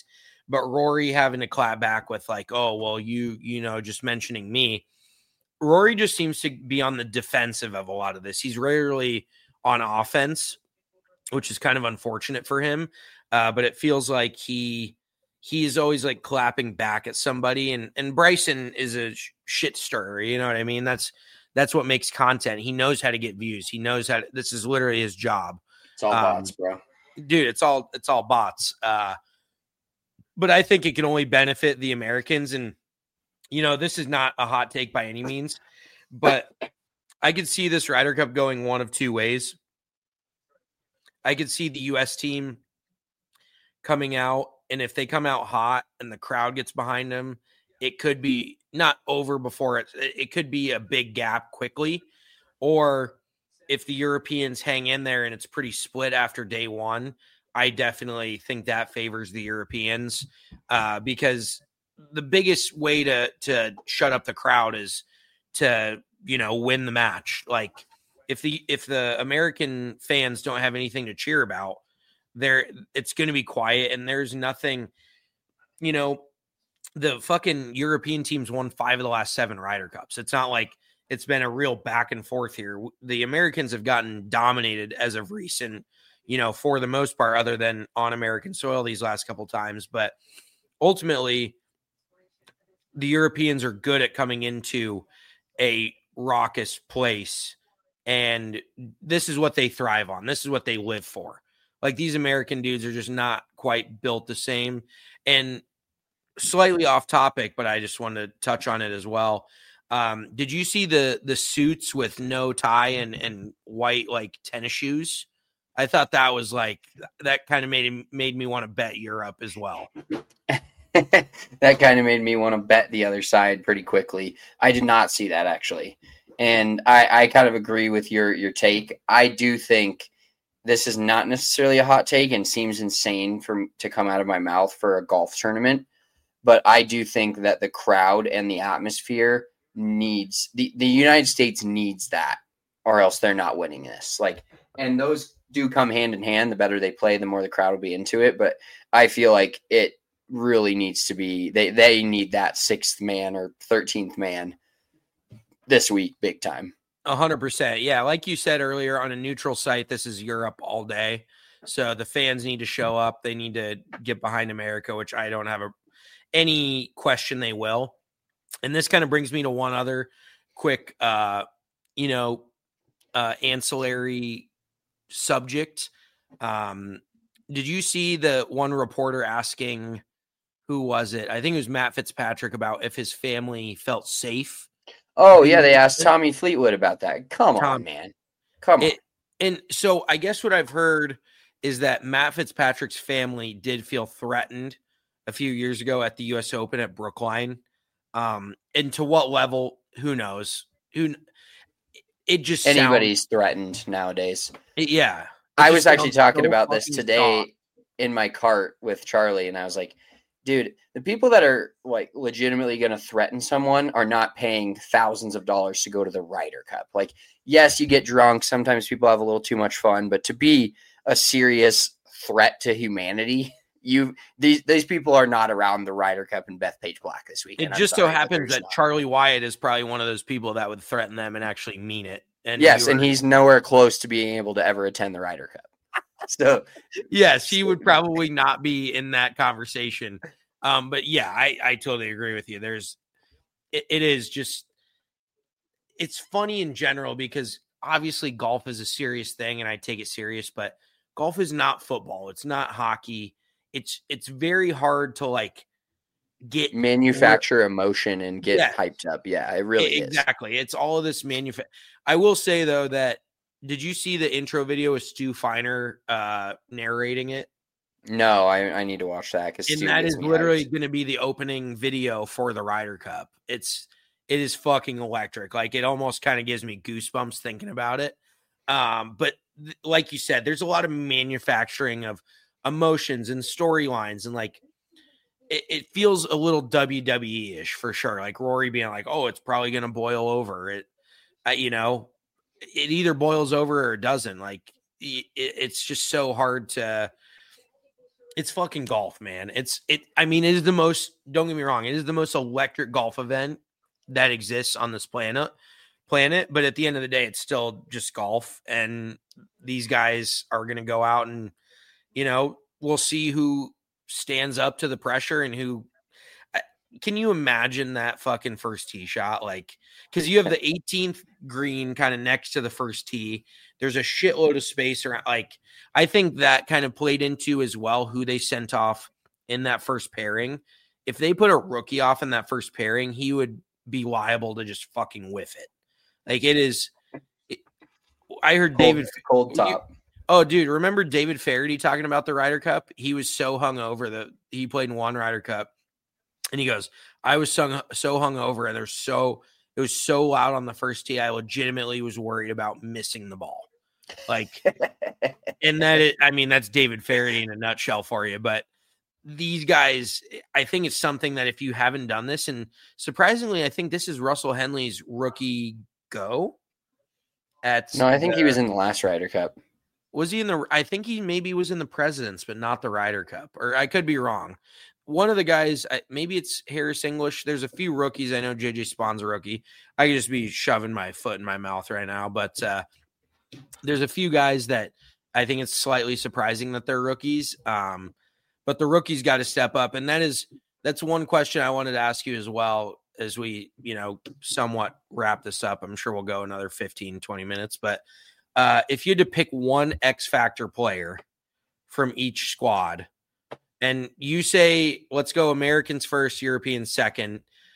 but Rory having to clap back with like, oh, well, you, you know, just mentioning me. Rory just seems to be on the defensive of a lot of this. He's rarely on offense, which is kind of unfortunate for him. Uh, but it feels like he, he is always like clapping back at somebody. And, and Bryson is a sh- shit stirrer. You know what I mean? That's, that's what makes content. He knows how to get views. He knows how to, this is literally his job. It's all um, bots, bro. Dude, it's all, it's all bots. Uh, but I think it can only benefit the Americans. And, you know, this is not a hot take by any means, but I could see this Ryder Cup going one of two ways. I could see the U S team coming out, and if they come out hot and the crowd gets behind them, it could be not over before it. It could be a big gap quickly. Or if the Europeans hang in there and it's pretty split after day one, I definitely think that favors the Europeans uh, because the biggest way to to shut up the crowd is to, you know, win the match. Like if the if the American fans don't have anything to cheer about, there it's going to be quiet, and there's nothing, you know, the fucking European teams won five of the last seven Ryder Cups. It's not like it's been a real back and forth here. The Americans have gotten dominated as of recent, you know, for the most part, other than on American soil these last couple times. But ultimately, the Europeans are good at coming into a raucous place, and this is what they thrive on. This is what they live for. Like, these American dudes are just not quite built the same. And slightly off topic, but I just wanted to touch on it as well. Um, did you see the the suits with no tie and and white like tennis shoes? I thought that was like, that kind of made made me want to bet Europe as well. That kind of made me want to bet the other side pretty quickly. I did not see that, actually. And I, I kind of agree with your, your take. I do think this is not necessarily a hot take and seems insane for to come out of my mouth for a golf tournament. But I do think that the crowd and the atmosphere needs the, the United States needs that, or else they're not winning this. Like, and those do come hand in hand. The better they play, the more the crowd will be into it. But I feel like it really needs to be, they, they need that sixth man or thirteenth man this week, big time. A hundred percent. Yeah. Like you said earlier, on a neutral site, this is Europe all day. So the fans need to show up. They need to get behind America, which I don't have a, any question they will. And this kind of brings me to one other quick, uh, you know, uh, ancillary subject. Um, did you see the one reporter asking, who was it? I think it was Matt Fitzpatrick, about if his family felt safe. Oh, yeah. They asked Tommy Fleetwood about that. Come Tom, on, man. Come it, on. And so I guess what I've heard is that Matt Fitzpatrick's family did feel threatened a few years ago at the U S Open at Brookline. Um, and to what level, who knows? Who it just anybody's sounds, threatened nowadays. Yeah. I was actually talking so about this today soft. in my cart with Charlie, and I was like, dude, the people that are like legitimately going to threaten someone are not paying thousands of dollars to go to the Ryder Cup. Like, yes, you get drunk. Sometimes people have a little too much fun, but to be a serious threat to humanity, you these these people are not around the Ryder Cup and Bethpage Black this weekend. It just so happens that not. Charlie Wyatt is probably one of those people that would threaten them and actually mean it. And yes, were, and he's nowhere close to being able to ever attend the Ryder Cup. So yes, he would probably not be in that conversation. Um, but yeah, I, I totally agree with you. There's, it, it is just, it's funny in general because obviously golf is a serious thing and I take it serious, but golf is not football. It's not hockey. It's, it's very hard to like get manufacture more, emotion and get yeah, hyped up. Yeah, it really it, is. Exactly. It's all of this manufacture. I will say though, that did you see the intro video with Stu Feiner uh, narrating it? No, I, I need to watch that. Cause and Stu that is literally hyped. going to be the opening video for the Ryder Cup. It's, it is fucking electric. Like it almost kind of gives me goosebumps thinking about it. Um, but th- like you said, there's a lot of manufacturing of emotions and storylines, and like it, it feels a little W W E-ish for sure. Like Rory being like, "Oh, it's probably going to boil over." It, uh, you know, it either boils over or it doesn't. Like it, it's just so hard to. It's fucking golf, man. It's it. I mean, it is the most. Don't get me wrong. It is the most electric golf event that exists on this planet. Planet, but at the end of the day, it's still just golf, and these guys are going to go out and, you know, we'll see who stands up to the pressure and who. Can you imagine that fucking first tee shot? Like, because you have the eighteenth green kind of next to the first tee. There's a shitload of space around. Like, I think that kind of played into as well who they sent off in that first pairing. If they put a rookie off in that first pairing, he would be liable to just fucking whiff it. Like, it is. It, I heard cold, David cold top. You, oh, dude, remember David Faraday talking about the Ryder Cup? He was so hungover that he played in one Ryder Cup. And he goes, I was so, so hungover and there's so it was so loud on the first tee. I legitimately was worried about missing the ball. Like, and that is, I mean, that's David Faraday in a nutshell for you. But these guys, I think it's something that if you haven't done this, and surprisingly, I think this is Russell Henley's rookie go. At no, I think the, he was in the last Ryder Cup. Was he in the? I think he maybe was in the Presidents, but not the Ryder Cup. Or I could be wrong. One of the guys, maybe it's Harris English. There's a few rookies. I know J J Spawn's a rookie. I could just be shoving my foot in my mouth right now. But uh, there's a few guys that I think it's slightly surprising that they're rookies. Um, but the rookies got to step up. And that is, that's one question I wanted to ask you as well as we, you know, somewhat wrap this up. I'm sure we'll go another fifteen, twenty minutes. But uh, if you had to pick one X Factor player from each squad, and you say, let's go Americans first, Europeans second.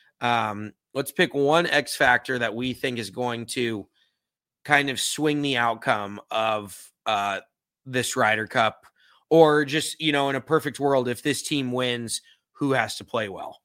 Um, let's pick one X factor that we think is going to kind of swing the outcome of uh, this Ryder Cup, or just, you know, in a perfect world, if this team wins, who has to play well?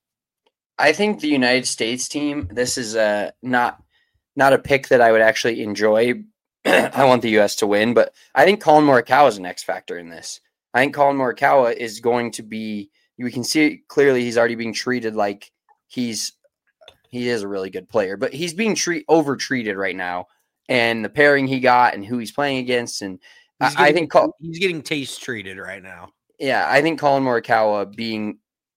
I think the United States team, this is a, not, not a pick that I would actually enjoy. I want the U S to win, but I think Colin Morikawa is an X factor in this. I think Colin Morikawa is going to be, we can see clearly he's already being treated like he's, he is a really good player, but he's being treat over treated right now. And the pairing he got and who he's playing against. And getting, I think Col- he's getting taste treated right now. Yeah. I think Colin Morikawa being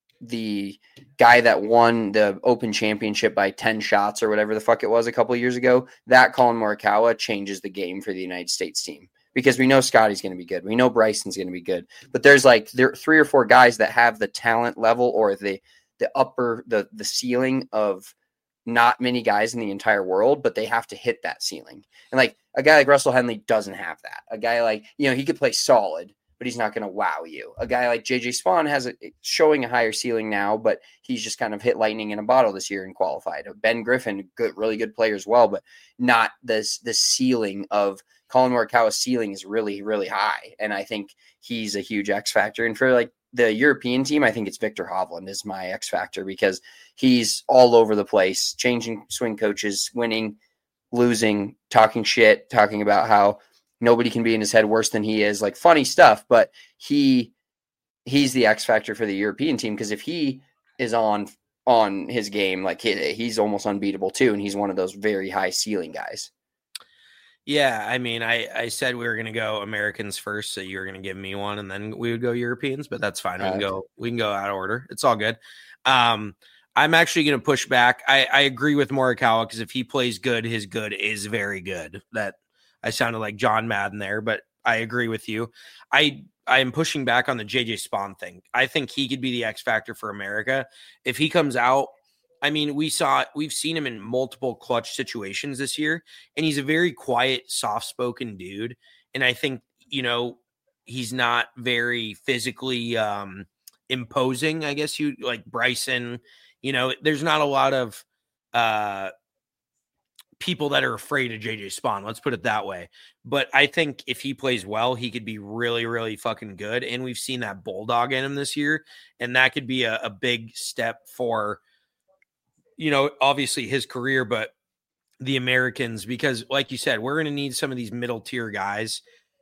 the guy that won the Open Championship by ten shots or whatever the fuck it was a couple of years ago, that Colin Morikawa changes the game for the United States team. Because we know Scotty's going to be good. We know Bryson's going to be good. But there's like there are three or four guys that have the talent level or the the upper, the the ceiling of not many guys in the entire world, but they have to hit that ceiling. And like a guy like Russell Henley doesn't have that. A guy like, you know, he could play solid, but he's not going to wow you. A guy like J J Spawn has a showing a higher ceiling now, but he's just kind of hit lightning in a bottle this year and qualified. Ben Griffin, good, really good player as well, but not this the ceiling of Colin Morikawa's ceiling is really, really high. And I think he's a huge X factor. And for like the European team, I think it's Victor Hovland is my X factor because he's all over the place, changing swing coaches, winning, losing, talking shit, talking about how nobody can be in his head worse than he is, like funny stuff. But he, he's the X factor for the European team. Cause if he is on, on his game, like he, he's almost unbeatable too. And he's one of those very high ceiling guys. Yeah, I mean, I, I said we were going to go Americans first, so you were going to give me one, and then we would go Europeans, but that's fine. We can go we can go out of order. It's all good. Um, I'm actually going to push back. I, I agree with Morikawa because if he plays good, his good is very good. That I sounded like John Madden there, but I agree with you. I I am pushing back on the J J Spawn thing. I think he could be the X factor for America if he comes out. I mean, we saw, we've seen him in multiple clutch situations this year, and he's a very quiet, soft-spoken dude. And I think, you know, he's not very physically um, imposing, I guess you like Bryson. You know, there's not a lot of uh, people that are afraid of J J Spawn. Let's put it that way. But I think if he plays well, he could be really, really fucking good. And we've seen that bulldog in him this year, and that could be a, a big step for, you know, obviously his career, but the Americans, because like you said, we're going to need some of these middle tier guys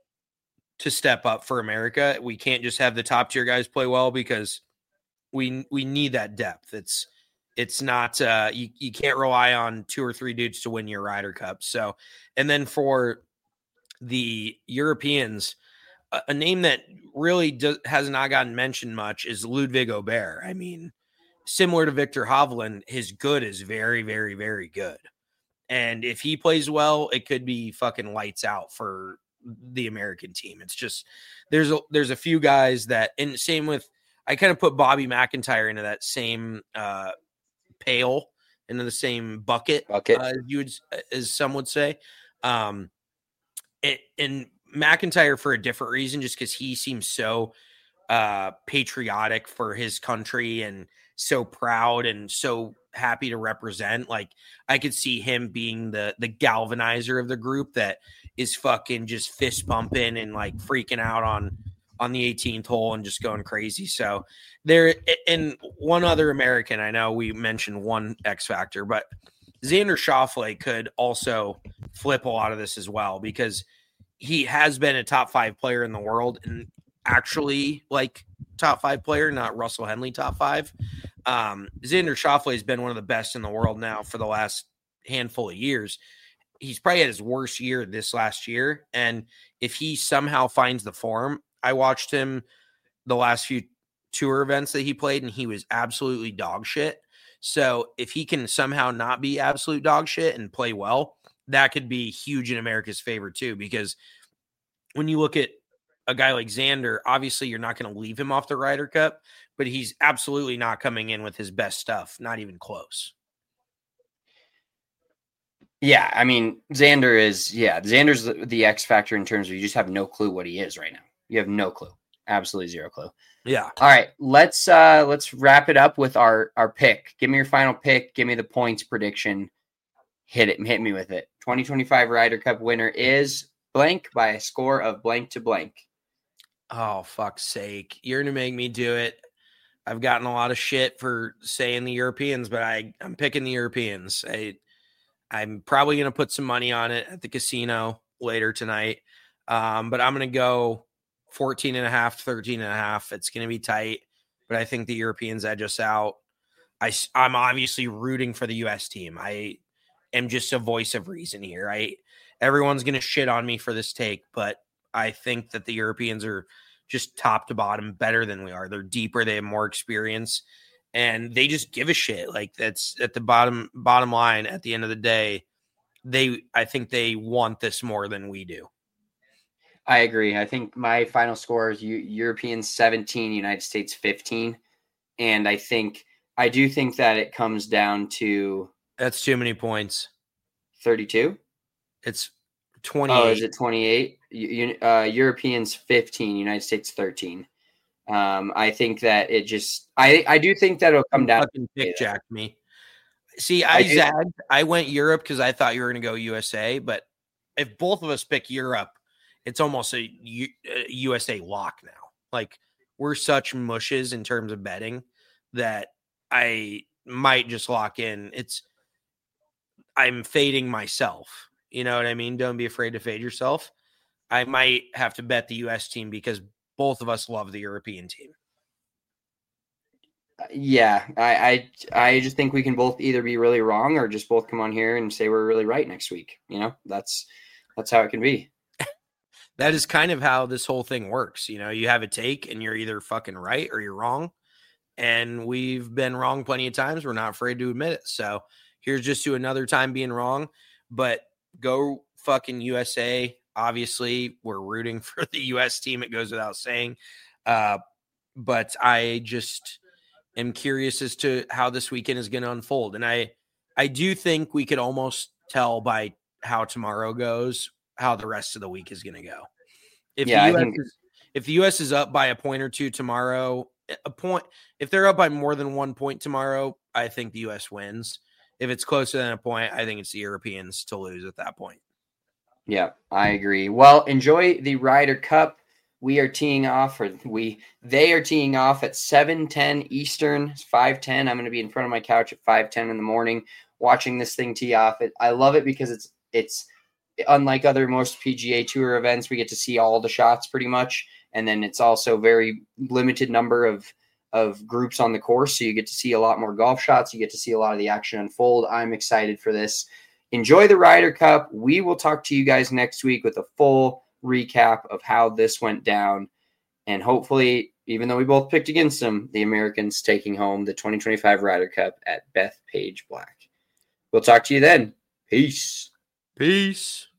to step up for America. We can't just have the top tier guys play well because we, we need that depth. It's, it's not, uh, you, you can't rely on two or three dudes to win your Ryder Cup. So, and then for the Europeans, a, a name that really does, has not gotten mentioned much is Ludwig Aubert. I mean, similar to Victor Hovland, his good is very, very, very good. And if he plays well, it could be fucking lights out for the American team. It's just there's a there's a few guys that, and same with, I kind of put Bobby McIntyre into that same uh, pail, into the same bucket, bucket. Uh, you would, as some would say. Um, it, and McIntyre for a different reason, just because he seems so uh, patriotic for his country and so proud and so happy to represent. Like, I could see him being the the galvanizer of the group that is fucking just fist bumping and like freaking out on on the eighteenth hole and just going crazy. So there, and one other American, I know we mentioned one X factor, but Xander Schauffele could also flip a lot of this as well, because he has been a top five player in the world, and actually like top five player, not Russell Henley top five. Um, Xander Schauffele has been one of the best in the world now for the last handful of years. He's probably had his worst year this last year. And if he somehow finds the form, I watched him the last few tour events that he played, and he was absolutely dog shit. So if he can somehow not be absolute dog shit and play well, that could be huge in America's favor too, because when you look at a guy like Xander, obviously you're not going to leave him off the Ryder Cup, but he's absolutely not coming in with his best stuff, not even close. Yeah, I mean, Xander is, yeah, Xander's the, the X factor in terms of you just have no clue what he is right now. You have no clue. Absolutely zero clue. Yeah. All right, let's uh let's wrap it up with our our pick. Give me your final pick. Give me the points prediction. Hit it. Hit me with it. twenty twenty-five Ryder Cup winner is blank by a score of blank to blank. Oh, fuck's sake. You're going to make me do it. I've gotten a lot of shit for saying the Europeans, but I, I'm picking the Europeans. I, I'm probably going to put some money on it at the casino later tonight. Um, but I'm going to go fourteen and a half, thirteen and a half. It's going to be tight, but I think the Europeans edge us out. I, I'm obviously rooting for the U S team. I am just a voice of reason here. I, everyone's going to shit on me for this take, but I think that the Europeans are just top to bottom better than we are. They're deeper. They have more experience, and they just give a shit. Like, that's at the bottom, bottom line. At the end of the day, they, I think they want this more than we do. I agree. I think my final score is U- Europeans seventeen, United States fifteen. And I think, I do think that it comes down to. That's too many points. thirty-two? It's twenty-eight. Oh, is it twenty-eight? You, uh, Europeans fifteen, United States thirteen. Um, I think that it just, I, I do think that it'll come down. Fucking pick jacked me. See, I, I zagged. I went Europe because I thought you were going to go U S A, but if both of us pick Europe, it's almost a, U, a U S A lock now. Like, we're such mushes in terms of betting that I might just lock in. It's, I'm fading myself. You know what I mean? Don't be afraid to fade yourself. I might have to bet the U S team because both of us love the European team. Yeah, I, I I just think we can both either be really wrong or just both come on here and say we're really right next week. You know, that's that's how it can be. That is kind of how this whole thing works. You know, you have a take and you're either fucking right or you're wrong. And we've been wrong plenty of times. We're not afraid to admit it. So here's just to another time being wrong. But go fucking U S A. Obviously, we're rooting for the U S team. It goes without saying. Uh, but I just am curious as to how this weekend is going to unfold. And I, I do think we could almost tell by how tomorrow goes how the rest of the week is going to go. If yeah, the U S I think- is, if the U S is up by a point or two tomorrow, a point, if they're up by more than one point tomorrow, I think the U S wins. If it's closer than a point, I think it's the Europeans to lose at that point. Yeah, I agree. Well, enjoy the Ryder Cup. We are teeing off, or we they are teeing off at seven ten Eastern. It's five ten. I'm going to be in front of my couch at five ten in the morning watching this thing tee off. It, I love it because it's it's unlike other most P G A Tour events. We get to see all the shots pretty much, and then it's also very limited number of of groups on the course, so you get to see a lot more golf shots. You get to see a lot of the action unfold. I'm excited for this. Enjoy the Ryder Cup. We will talk to you guys next week with a full recap of how this went down. And hopefully, even though we both picked against them, the Americans taking home the twenty twenty-five Ryder Cup at Bethpage Black. We'll talk to you then. Peace. Peace.